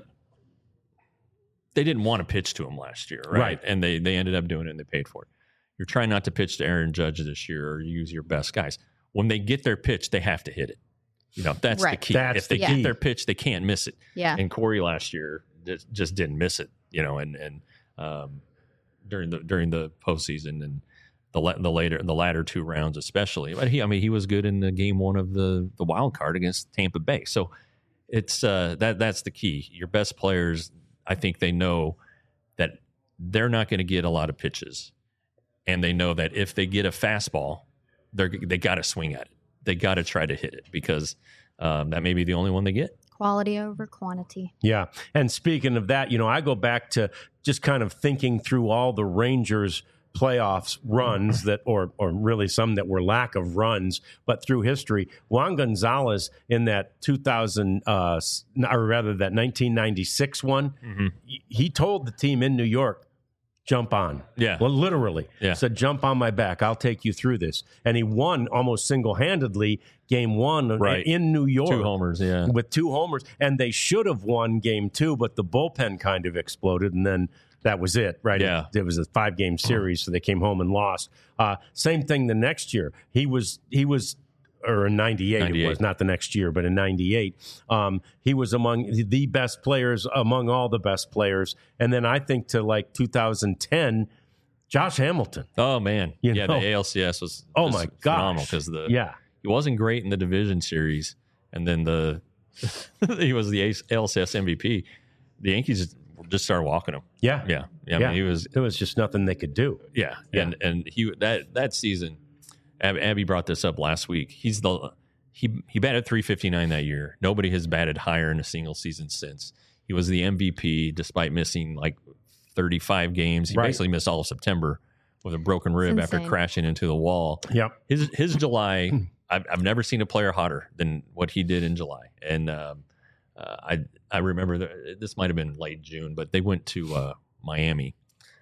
they didn't want to pitch to him last year, right? Right. And they they ended up doing it and they paid for it. You're trying not to pitch to Aaron Judge this year or use your best guys. When they get their pitch, they have to hit it. You know, that's Right. the key. That's if they the get key. their pitch, they can't miss it. yeah, And Corey last year just, just didn't miss it, you know, and, and um, during the during the postseason and the la- the later the latter two rounds especially. But he, I mean, he was good in the game one of the the wild card against Tampa Bay. So it's uh, that that's the key. Your best players, I think they know that they're not going to get a lot of pitches, and they know that if they get a fastball, they're they got to swing at it. They got to try to hit it because um, that may be the only one they get. Quality over quantity. Yeah. And speaking of that, you know, I go back to just kind of thinking through all the Rangers playoffs runs that, or or really some that were lack of runs, but through history, Juan Gonzalez in that two thousand, uh, or rather that nineteen ninety-six one, mm-hmm. he told the team in New York, jump on. Yeah. Well, literally. Yeah. Said, jump on my back. I'll take you through this. And he won almost single-handedly game one right. in New York. Two homers, yeah. With two homers. And they should have won game two, but the bullpen kind of exploded, and then that was it, right? Yeah. It, it was a five-game series, so they came home and lost. Uh, same thing the next year. He was he was or in ninety-eight, ninety-eight, it was not the next year, but in ninety-eight, um, he was among the best players, among all the best players. And then I think to like two thousand ten, Josh Hamilton. Oh, man. You yeah, know? the A L C S was oh my phenomenal gosh. because the yeah. he wasn't great in the division series, and then the he was the A L C S M V P. The Yankees just started walking him. Yeah. Yeah. Yeah. I yeah. mean, he was, there was just nothing they could do. Yeah. yeah. And, and he, that, that season, Ab, Abby brought this up last week. He's the, he, he batted three fifty-nine that year. Nobody has batted higher in a single season since. He was the M V P despite missing like thirty-five games. He right. basically missed all of September with a broken rib after crashing into the wall. Yep. His, his July, I've, I've never seen a player hotter than what he did in July. And, um, Uh, I I remember the, this might have been late June, but they went to uh, Miami,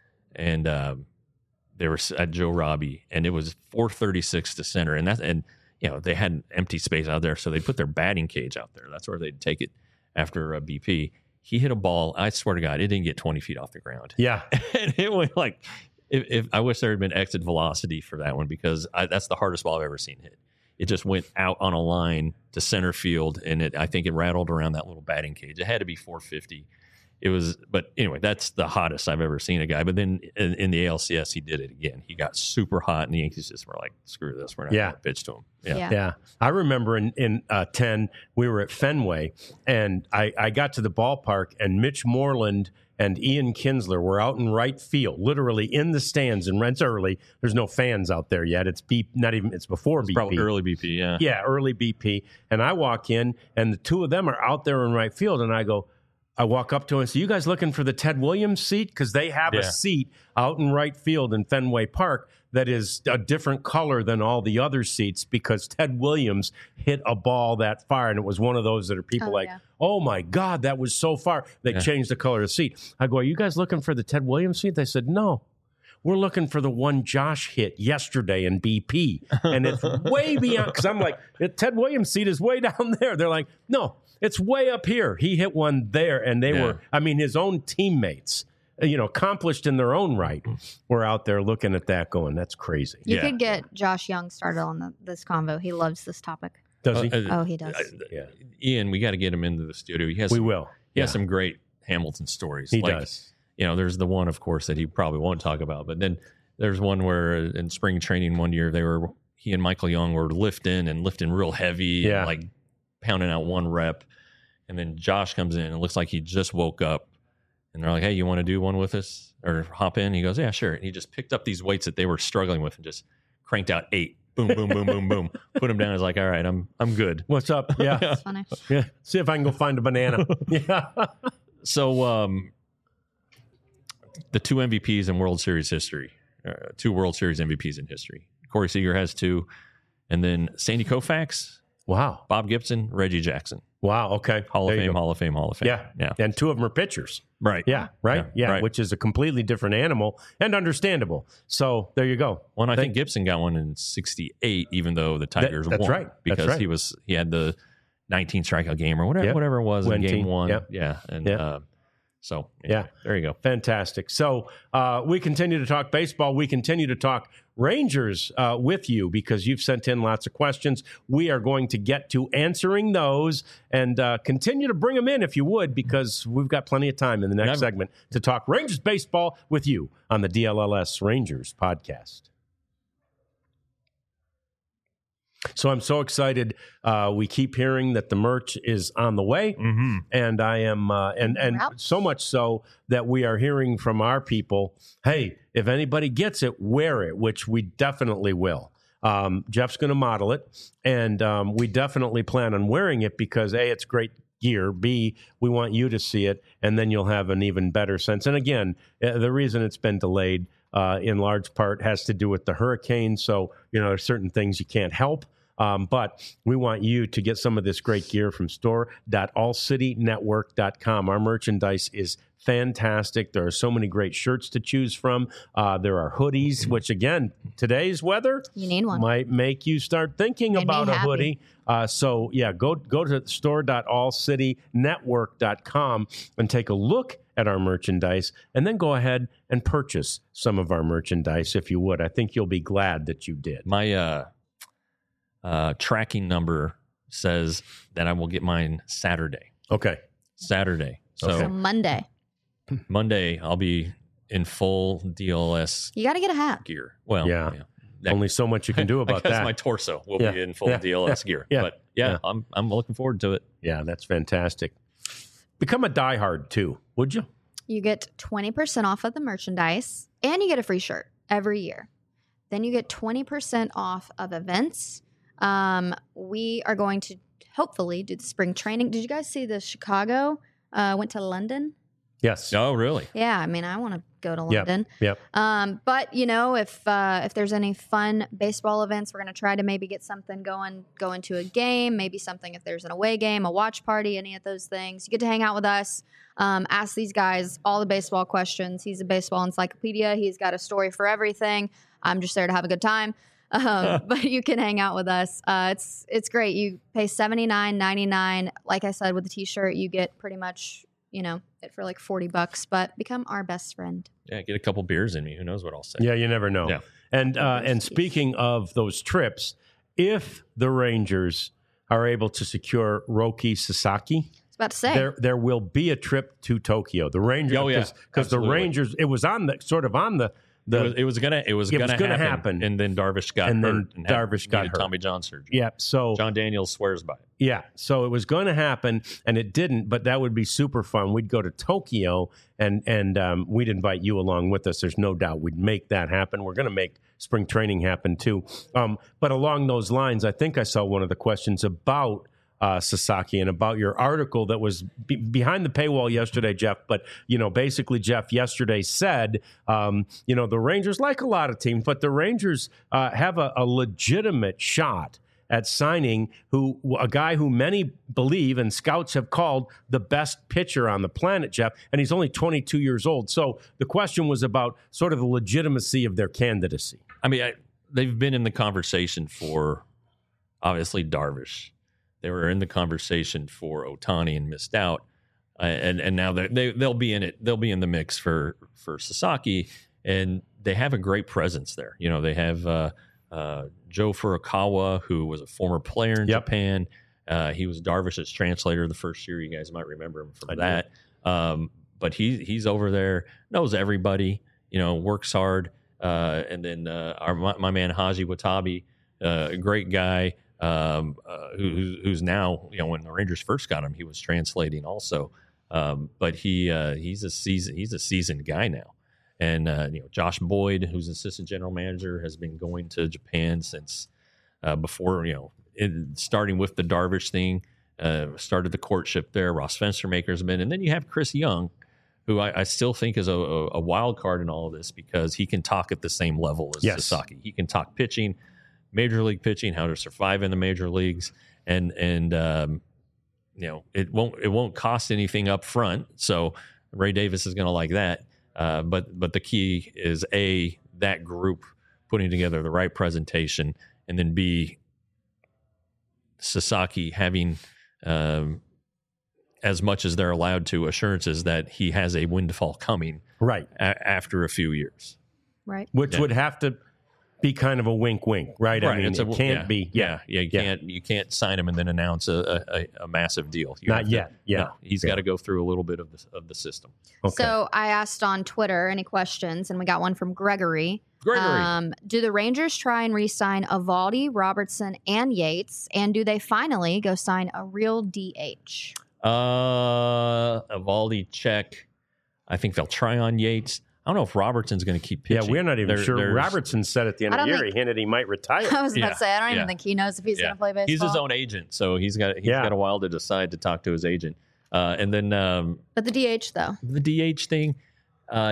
and um, they were at Joe Robbie, and it was four thirty-six to center, and that and you know they had an empty space out there, so they put their batting cage out there. That's where they'd take it after uh, B P. He hit a ball. I swear to God, it didn't get twenty feet off the ground. Yeah, and it went like if, if I wish there had been exit velocity for that one because I, that's the hardest ball I've ever seen hit. It just went out on a line to center field, and it I think it rattled around that little batting cage. It had to be four fifty. It was, but anyway, that's the hottest I've ever seen a guy. But then in, in the A L C S, he did it again. He got super hot, and the Yankees just were like, "Screw this, we're not yeah. going to pitch to him." Yeah, yeah. yeah. I remember in in uh, ten, we were at Fenway, and I, I got to the ballpark, and Mitch Moreland and Ian Kinsler were out in right field, literally in the stands. And it's early. There's no fans out there yet. It's B, not even. It's before it's B P. Probably early B P. Yeah, yeah, early B P. And I walk in, and the two of them are out there in right field, and I go. I walk up to him and say, "You guys looking for the Ted Williams seat? Because they have yeah. a seat out in right field in Fenway Park that is a different color than all the other seats because Ted Williams hit a ball that far, and it was one of those that are people oh, like, yeah. oh my God, that was so far. They yeah. changed the color of the seat. I go, are you guys looking for the Ted Williams seat? They said, no. We're looking for the one Josh hit yesterday in B P. And it's way beyond, because I'm like, the Ted Williams seat is way down there. They're like, no, it's way up here. He hit one there. And they yeah. were, I mean, his own teammates, you know, accomplished in their own right, were out there looking at that going, that's crazy. You yeah. could get Josh Young started on the, this convo. He loves this topic. Does he? Uh, oh, he does. Uh, yeah. Ian, we got to get him into the studio. He has we some, will. He yeah. has some great Hamilton stories. He like, does. You know, there's the one, of course, that he probably won't talk about. But then there's one where in spring training one year, they were he and Michael Young were lifting and lifting real heavy, yeah. and like pounding out one rep. And then Josh comes in and it looks like he just woke up. And they're like, "Hey, you want to do one with us or hop in?" He goes, "Yeah, sure." And he just picked up these weights that they were struggling with and just cranked out eight. Boom, boom, boom, boom, boom. Put them down. He's like, "All right, I'm I'm good." What's up? Yeah. That's funny. yeah. See if I can go find a banana. yeah. So um, the two M V Ps in World Series history, uh, two World Series M V Ps in history. Corey Seager has two. And then Sandy Koufax, Wow. Bob Gibson, Reggie Jackson. Wow. Okay. Hall of There you Fame, go. Hall of Fame, Hall of Fame. Yeah. Yeah. And two of them are pitchers. Right. Yeah. Right. Yeah, Yeah. right. Which is a completely different animal and understandable. So there you go. One, I Thank- think Gibson got one in sixty-eight, even though the Tigers that's won. right. That's Because right. he was he had the nineteen strikeout game or whatever Yep. whatever it was in nineteen, game one. yep. Yeah. And Yep. uh, So anyway, Yeah. there you go. Fantastic. So uh, we continue to talk baseball. We continue to talk Rangers uh, with you because you've sent in lots of questions. We are going to get to answering those and uh, continue to bring them in if you would, because we've got plenty of time in the next Never. segment to talk Rangers baseball with you on the D L L S Rangers podcast. So I'm so excited. Uh, we keep hearing that the merch is on the way, Mm-hmm. and I am, uh, and and Routes. so much so that we are hearing from our people, hey, if anybody gets it, wear it, which we definitely will. Um, Jeff's going to model it, and um, we definitely plan on wearing it because A, it's great gear. B, we want you to see it, and then you'll have an even better sense. And again, uh, the reason it's been delayed uh, in large part has to do with the hurricane. So, you know, there's certain things you can't help. Um, but we want you to get some of this great gear from store dot all city network dot com. Our merchandise is fantastic. There are so many great shirts to choose from. Uh, there are hoodies, which, again, today's weather You need one. might make you start thinking Made me about a happy. hoodie. Uh, so, yeah, go go to store dot all city network dot com and take a look at our merchandise, and then go ahead and purchase some of our merchandise if you would. I think you'll be glad that you did. My uh, uh, tracking number says that I will get mine Saturday. Okay. Saturday. So Okay. So Monday, Monday, I'll be in full D L S you got to get a hat. gear. Well, Yeah. That- Only so much you can do about I guess that. my torso will Yeah. be in full Yeah. D L S gear. Yeah. But yeah, Yeah. I'm I'm looking forward to it. Yeah, that's fantastic. Become a diehard too, would you? You get twenty percent off of the merchandise and you get a free shirt every year. Then you get twenty percent off of events. Um, we are going to hopefully do the spring training. Did you guys see the Chicago? Uh, went to London. Yes. Oh, really? Yeah, I mean, I want to go to Yep, London. yep. Um, but you know, if uh, if there's any fun baseball events, we're going to try to maybe get something going, go into a game, maybe something if there's an away game, a watch party, any of those things. You get to hang out with us, um, ask these guys all the baseball questions. He's a baseball encyclopedia. He's got a story for everything. I'm just there to have a good time. Um, but you can hang out with us. Uh, it's it's great. You pay seventy-nine ninety-nine. Like I said, with the t-shirt, you get pretty much, you know, it for like forty bucks, but become our best friend. Yeah, get a couple beers in me. Who knows what I'll say? Yeah, you never know. Yeah. And uh, and Jeez. speaking of those trips, if the Rangers are able to secure Roki Sasaki, I was about to say. there there will be a trip to Tokyo. The Rangers, Oh, yeah. because the Absolutely. Rangers, it was on the sort of on the It the was, it was gonna it was It gonna, was gonna happen, happen. and then Darvish got And then hurt and had- Darvish got needed hurt. Tommy John surgery. yeah. So John Daniels swears by it. yeah, so it was going to happen, and it didn't. But that would be super fun. We'd go to Tokyo, and and um, we'd invite you along with us. There's no doubt we'd make that happen. We're going to make spring training happen too. Um, but along those lines, I think I saw one of the questions about uh, Sasaki and about your article that was be- behind the paywall yesterday, Jeff. But you know, basically, Jeff yesterday said, um, you know, the Rangers, like a lot of teams, but the Rangers uh, have a, a legitimate shot at signing who a guy who many believe and scouts have called the best pitcher on the planet, Jeff, and he's only twenty-two years old. So the question was about sort of the legitimacy of their candidacy. I mean, I, they've been in the conversation for obviously Darvish. They were in the conversation for Ohtani and missed out, uh, and and now they they they'll be in it. They'll be in the mix for for Sasaki, and they have a great presence there. You know, they have uh, uh, Joe Furukawa, who was a former player in Yep. Japan. Uh, he was Darvish's translator the first year. You guys might remember him from I do. that. Um, but he he's over there, knows everybody. You know, works hard. Uh, and then uh, our my, my man Haji Watabe, uh, a great guy. Um, uh, who, who's- who's now, you know, when the Rangers first got him, he was translating also. Um, but he uh, he's a season he's a seasoned guy now, and uh, you know, Josh Boyd, who's assistant general manager, has been going to Japan since uh, before, you know, it, starting with the Darvish thing, uh, started the courtship there. Ross Fenstermaker's been, and then you have Chris Young, who I, I still think is a, a, a wild card in all of this because he can talk at the same level as Yes. Sasaki. He can talk pitching, major league pitching, how to survive in the major leagues, and and um, you know, it won't it won't cost anything up front. So Ray Davis is going to like that. Uh, but but the key is A, that group putting together the right presentation, and then B, Sasaki having um, as much as they're allowed to, assurances that he has a windfall coming Right. a- after a few years. Right. Which Yeah. would have to be kind of a wink, wink, right? I mean, It's it a- can't yeah, be. Yeah, yeah. You Yeah. can't you can't sign him and then announce a a, a massive deal. You Not have to- yet. Yeah. no, he's Yeah. got to go through a little bit of the of the system. Okay. So I asked on Twitter any questions, and we got one from Gregory. Gregory, Um, do the Rangers try and re-sign Evaldi, Robertson, and Yates? And do they finally go sign a real D H? uh, Evaldi check. I think they'll try on Yates. I don't know if Robertson's going to keep yeah, pitching. we're not even There- sure. there's- Robertson said at the end I of the don't year he think- hinted he might retire. I was about Yeah, to say I don't yeah. even think he knows if he's Yeah. going to play baseball. He's his own agent, so he's got he's Yeah. got a while to decide to talk to his agent. Uh, and then um, But the D H though, the D H thing, uh,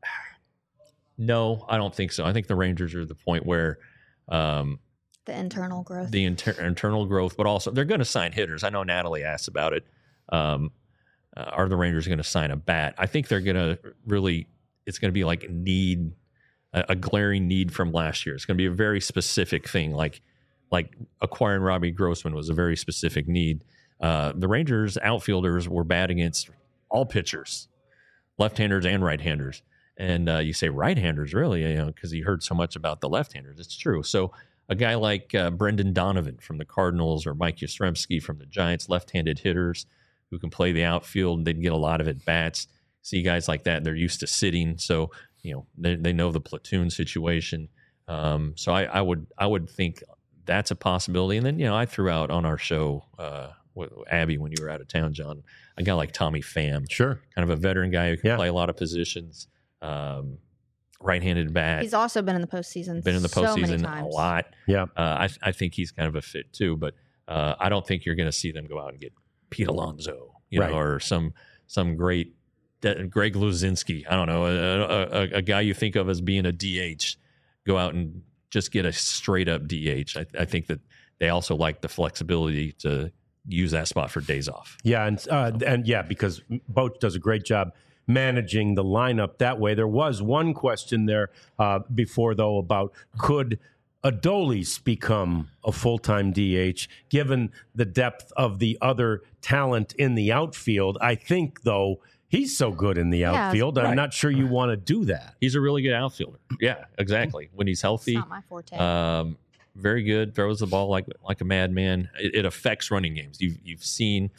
no, I don't think so. I think the Rangers are at the point where um, the internal growth. the inter- internal growth, but also they're going to sign hitters. I know Natalie asked about it. Um, uh, are the Rangers going to sign a bat? I think they're going to really. It's going to be like need a, a glaring need from last year. It's going to be a very specific thing, like like acquiring Robbie Grossman was a very specific need. Uh, the Rangers outfielders were bad against all pitchers, left-handers and right-handers. And uh, you say right-handers, really, you know, because you heard so much about the left-handers. It's true. So a guy like uh, Brendan Donovan from the Cardinals or Mike Yastrzemski from the Giants, left-handed hitters who can play the outfield, they'd get a lot of at-bats. See guys like that, they're used to sitting, so you know they, they know the platoon situation. Um, so I, I would I would think that's a possibility. And then you know I threw out on our show uh, with Abby when you were out of town, John, a guy like Tommy Pham, Sure. kind of a veteran guy who can Yeah. play a lot of positions. Um, right-handed bat, He's also been in the postseason. been in the so many postseason times. a lot. Yeah. Uh, I, I think he's kind of a fit too, but uh, I don't think you're going to see them go out and get Pete Alonso, you Right. know, or some some great De- Greg Luzinski. I don't know, a, a, a, a guy you think of as being a D H, go out and just get a straight up D H. I, I think that they also like the flexibility to use that spot for days off. Yeah, and uh, and yeah, because Boach does a great job managing the lineup that way. There was one question there uh, before, though, about could Adolis become a full-time D H, given the depth of the other talent in the outfield. I think, though, he's so good in the Yeah, outfield, I'm right. not sure you want to do that. He's a really good outfielder. Yeah, exactly. When he's It's healthy, not my forte. Um, very good. Throws the ball like like a madman. It, it affects running games. You've you've seen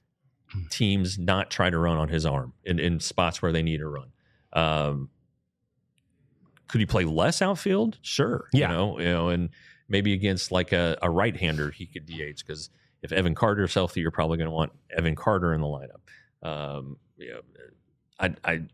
teams not try to run on his arm in, in spots where they need to run. Um, could he play less outfield? Sure. Yeah. You know, you know, and maybe against like a, a right-hander, he could D H because if Evan Carter's healthy, you're probably going to want Evan Carter in the lineup. Um, you know, I, I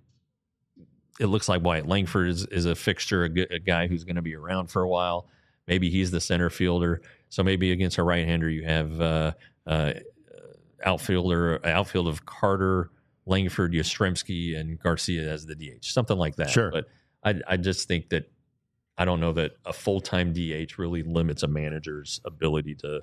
it looks like Wyatt Langford is, is a fixture, a, g- a guy who's going to be around for a while. Maybe he's the center fielder. So maybe against a right-hander, you have uh, uh, outfielder outfield of Carter, Langford, Yastrzemski, and Garcia as the D H, something like that. Sure. But I, I just think that I don't know that a full-time D H really limits a manager's ability to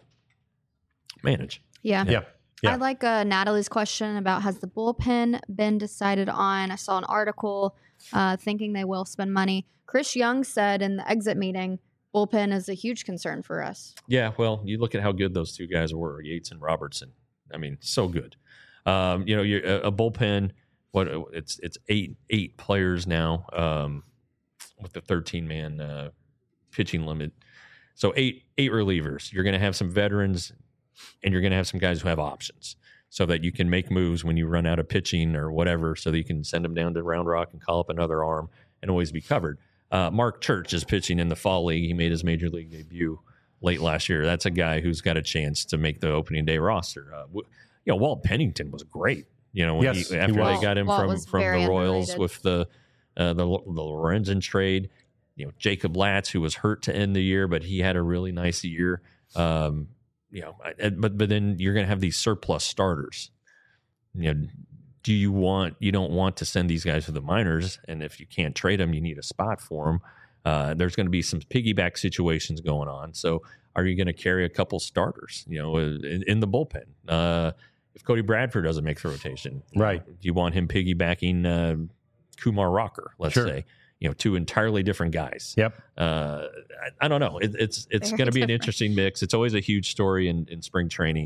manage. yeah. Yeah. Yeah. I like uh, Natalie's question about has the bullpen been decided on? I saw an article uh, thinking they will spend money. Chris Young said in the exit meeting, bullpen is a huge concern for us. Yeah, well, you look at how good those two guys were, Yates and Robertson. I mean, so good. Um, you know, you're, a, a bullpen. What it's it's eight eight players now um, with the thirteen man uh, pitching limit. So eight eight relievers. You're going to have some veterans, and you're going to have some guys who have options, so that you can make moves when you run out of pitching or whatever, so that you can send them down to Round Rock and call up another arm and always be covered. Uh, Mark Church is pitching in the fall league. He made his major league debut late last year. That's a guy who's got a chance to make the opening day roster. Uh, w- you know, Walt Pennington was great. You know, when Yes, he, he after was. they got him Walt from was from very the Royals underrated. with the uh, the the Lorenzen trade. You know, Jacob Latz, who was hurt to end the year, but he had a really nice year. Um, you know, I- but but then you're going to have these surplus starters. You know, do you want you don't want to send these guys to the minors, and if you can't trade them, you need a spot for them. Uh, there's going to be some piggyback situations going on. So, are you going to carry a couple starters? You know, in, in the bullpen. Uh, if Cody Bradford doesn't make the rotation, Right. Do you want him piggybacking uh, Kumar Rocker? Let's Sure. say. You know, two entirely different guys. Yep. Uh, I, I don't know. It, it's it's Very going to be an different. interesting mix. It's always a huge story in, in spring training.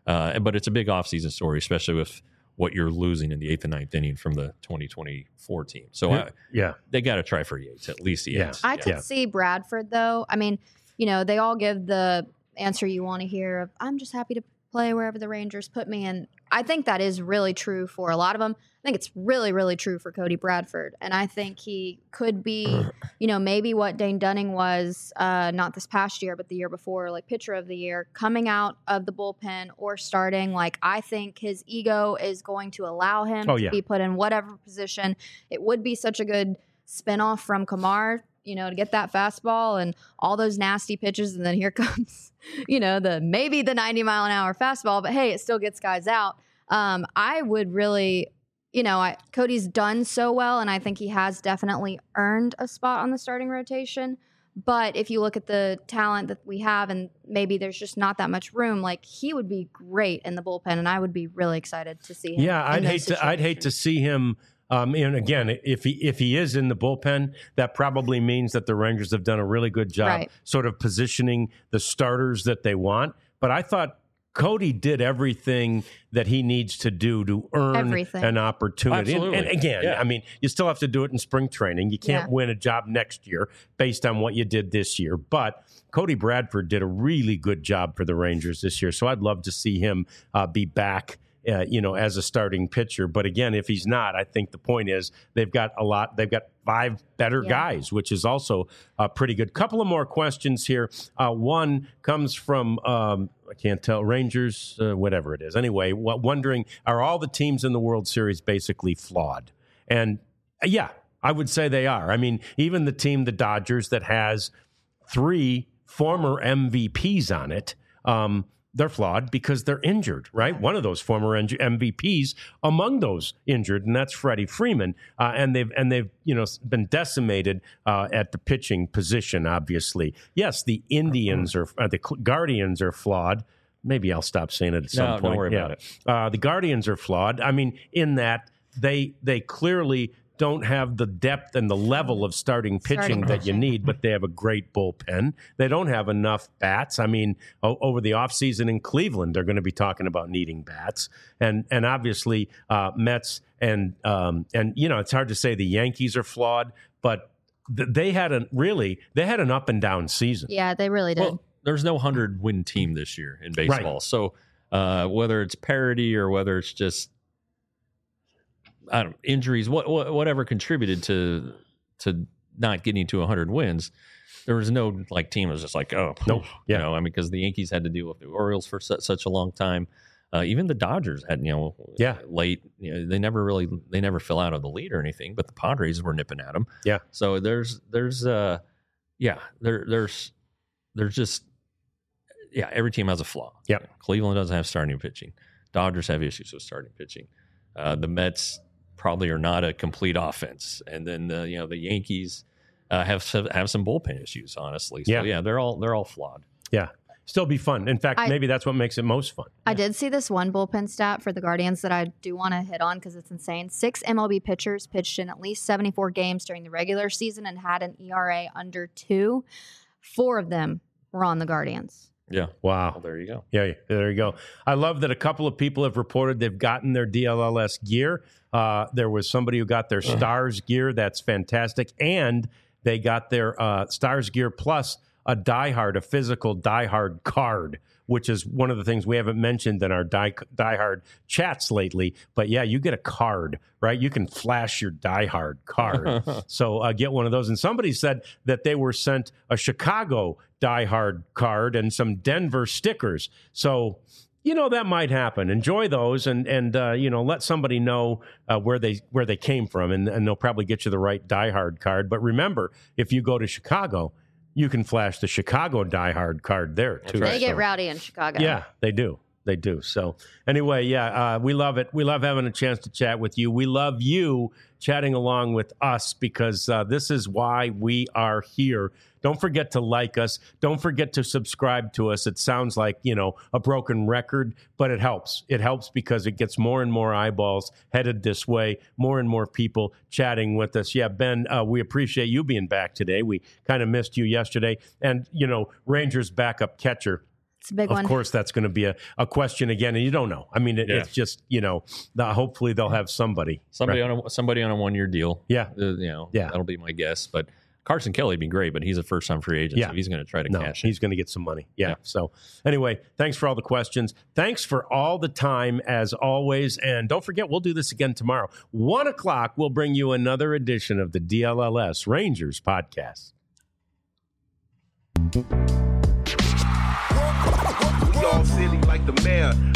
Uh, but it's a big offseason story, especially with what you're losing in the eighth and ninth inning from the twenty twenty-four team. So yeah, uh, yeah. they got to try for Yates, at least Yates. I yeah. could see Bradford, though. I mean, you know, they all give the answer you want to hear of, I'm just happy to play wherever the Rangers put me. And I think that is really true for a lot of them. I think it's really, really true for Cody Bradford. And I think he could be, you know, maybe what Dane Dunning was, uh, not this past year, but the year before, like pitcher of the year, coming out of the bullpen or starting. Like, I think his ego is going to allow him Oh, to yeah. be put in whatever position. It would be such a good spinoff from Kamar, you know, to get that fastball and all those nasty pitches. And then here comes, you know, the maybe the ninety mile an hour fastball, but hey, it still gets guys out. Um, I would really, you know, I, Cody's done so well, and I think he has definitely earned a spot on the starting rotation. But if you look at the talent that we have, and maybe there's just not that much room, like he would be great in the bullpen, and I would be really excited to see him. Yeah, in I'd those hate to. I'd hate to situations. see him. Um, and again, if he if he is in the bullpen, that probably means that the Rangers have done a really good job, Right. sort of positioning the starters that they want. But I thought Cody did everything that he needs to do to earn Everything. an opportunity. And, Absolutely. and again, Yeah. I mean, you still have to do it in spring training. You can't Yeah. win a job next year based on what you did this year. But Cody Bradford did a really good job for the Rangers this year. So I'd love to see him uh, be back. Uh, you know, as a starting pitcher. But again, if he's not, I think the point is they've got a lot. They've got five better Yeah. guys, which is also uh, pretty good. Couple of more questions here. Uh, one comes from, um, I can't tell, Rangers, uh, whatever it is. Anyway, w- wondering, are all the teams in the World Series basically flawed? And uh, yeah, I would say they are. I mean, even the team, the Dodgers, that has three former M V Ps on it, um, they're flawed because they're injured, right? One of those former M V Ps among those injured, and that's Freddie Freeman. Uh, and they've and they've you know been decimated uh, at the pitching position. Obviously, yes, the Indians are uh, the Guardians are flawed. Maybe I'll stop saying it at some No, point. don't worry about it. Uh, the Guardians are flawed. I mean, in that they they clearly don't have the depth and the level of starting pitching Starting that you pitching. need, but they have a great bullpen. They don't have enough bats. I mean, o- over the offseason in Cleveland, they're going to be talking about needing bats. And and obviously, uh, Mets and, um, and you know, it's hard to say the Yankees are flawed, but th- they had a really, they had an up and down season. Yeah, they really did. Well, there's no hundred win team this year in baseball. Right. So uh, whether it's parity or whether it's just I don't injuries, what, what whatever contributed to to not getting to hundred wins, there was no like team that was just like oh Nope. Yeah. you know I mean because the Yankees had to deal with the Orioles for such, such a long time. Uh, even the Dodgers had you know Yeah. late you know they never really they never fell out of the lead or anything, but the Padres were nipping at them. Yeah. So there's there's uh yeah there there's there's just yeah every team has a flaw. Yep. Cleveland doesn't have starting pitching. Dodgers have issues with starting pitching. Uh, the Mets probably are not a complete offense, and then the, you know the Yankees uh, have some- have some bullpen issues. Honestly, so Yeah. yeah, they're all they're all flawed. Yeah. Still be fun. In fact, I- maybe that's what makes it most fun. I did see this one bullpen stat for the Guardians that I do want to hit on because it's insane. Six M L B pitchers pitched in at least seventy-four games during the regular season and had an E R A under two. Four of them were on the Guardians. Yeah, Wow. well, there you go. Yeah, there you go. I love that a couple of people have reported they've gotten their D L L S gear. Uh, there was somebody who got their Stars gear. That's fantastic. And they got their uh, Stars gear plus a diehard, a physical diehard card, which is one of the things we haven't mentioned in our die, diehard chats lately. But yeah, you get a card, right? You can flash your diehard card. So uh, get one of those. And somebody said that they were sent a Chicago diehard card and some Denver stickers. So, you know, that might happen. Enjoy those and, and uh, you know, let somebody know uh, where they where they came from, and, and they'll probably get you the right diehard card. But remember, if you go to Chicago, you can flash the Chicago diehard card there, too. right. They get So- rowdy in Chicago. yeah, they do. They do. So anyway, yeah, uh, we love it. We love having a chance to chat with you. We love you chatting along with us because uh, this is why we are here. Don't forget to like us. Don't forget to subscribe to us. It sounds like, you know, a broken record, but it helps. It helps because it gets more and more eyeballs headed this way, more and more people chatting with us. Yeah, Ben, uh, we appreciate you being back today. We kind of missed you yesterday. And, you know, Rangers backup catcher It's a big of one. Of course, that's going to be a, a question again, and you don't know. I mean, it, Yeah. it's just, you know, the, hopefully they'll have somebody. Somebody right? on a somebody on a one year deal. Yeah. Uh, you know, Yeah. that'll be my guess. But Carson Kelly would be great, but he's a first time free agent, Yeah. so he's going to try to No, cash in. he's going to get some money. Yeah. Yeah. So anyway, thanks for all the questions. Thanks for all the time, as always. And don't forget, we'll do this again tomorrow. One o'clock, we'll bring you another edition of the D L L S Rangers podcast. We all silly like the mayor.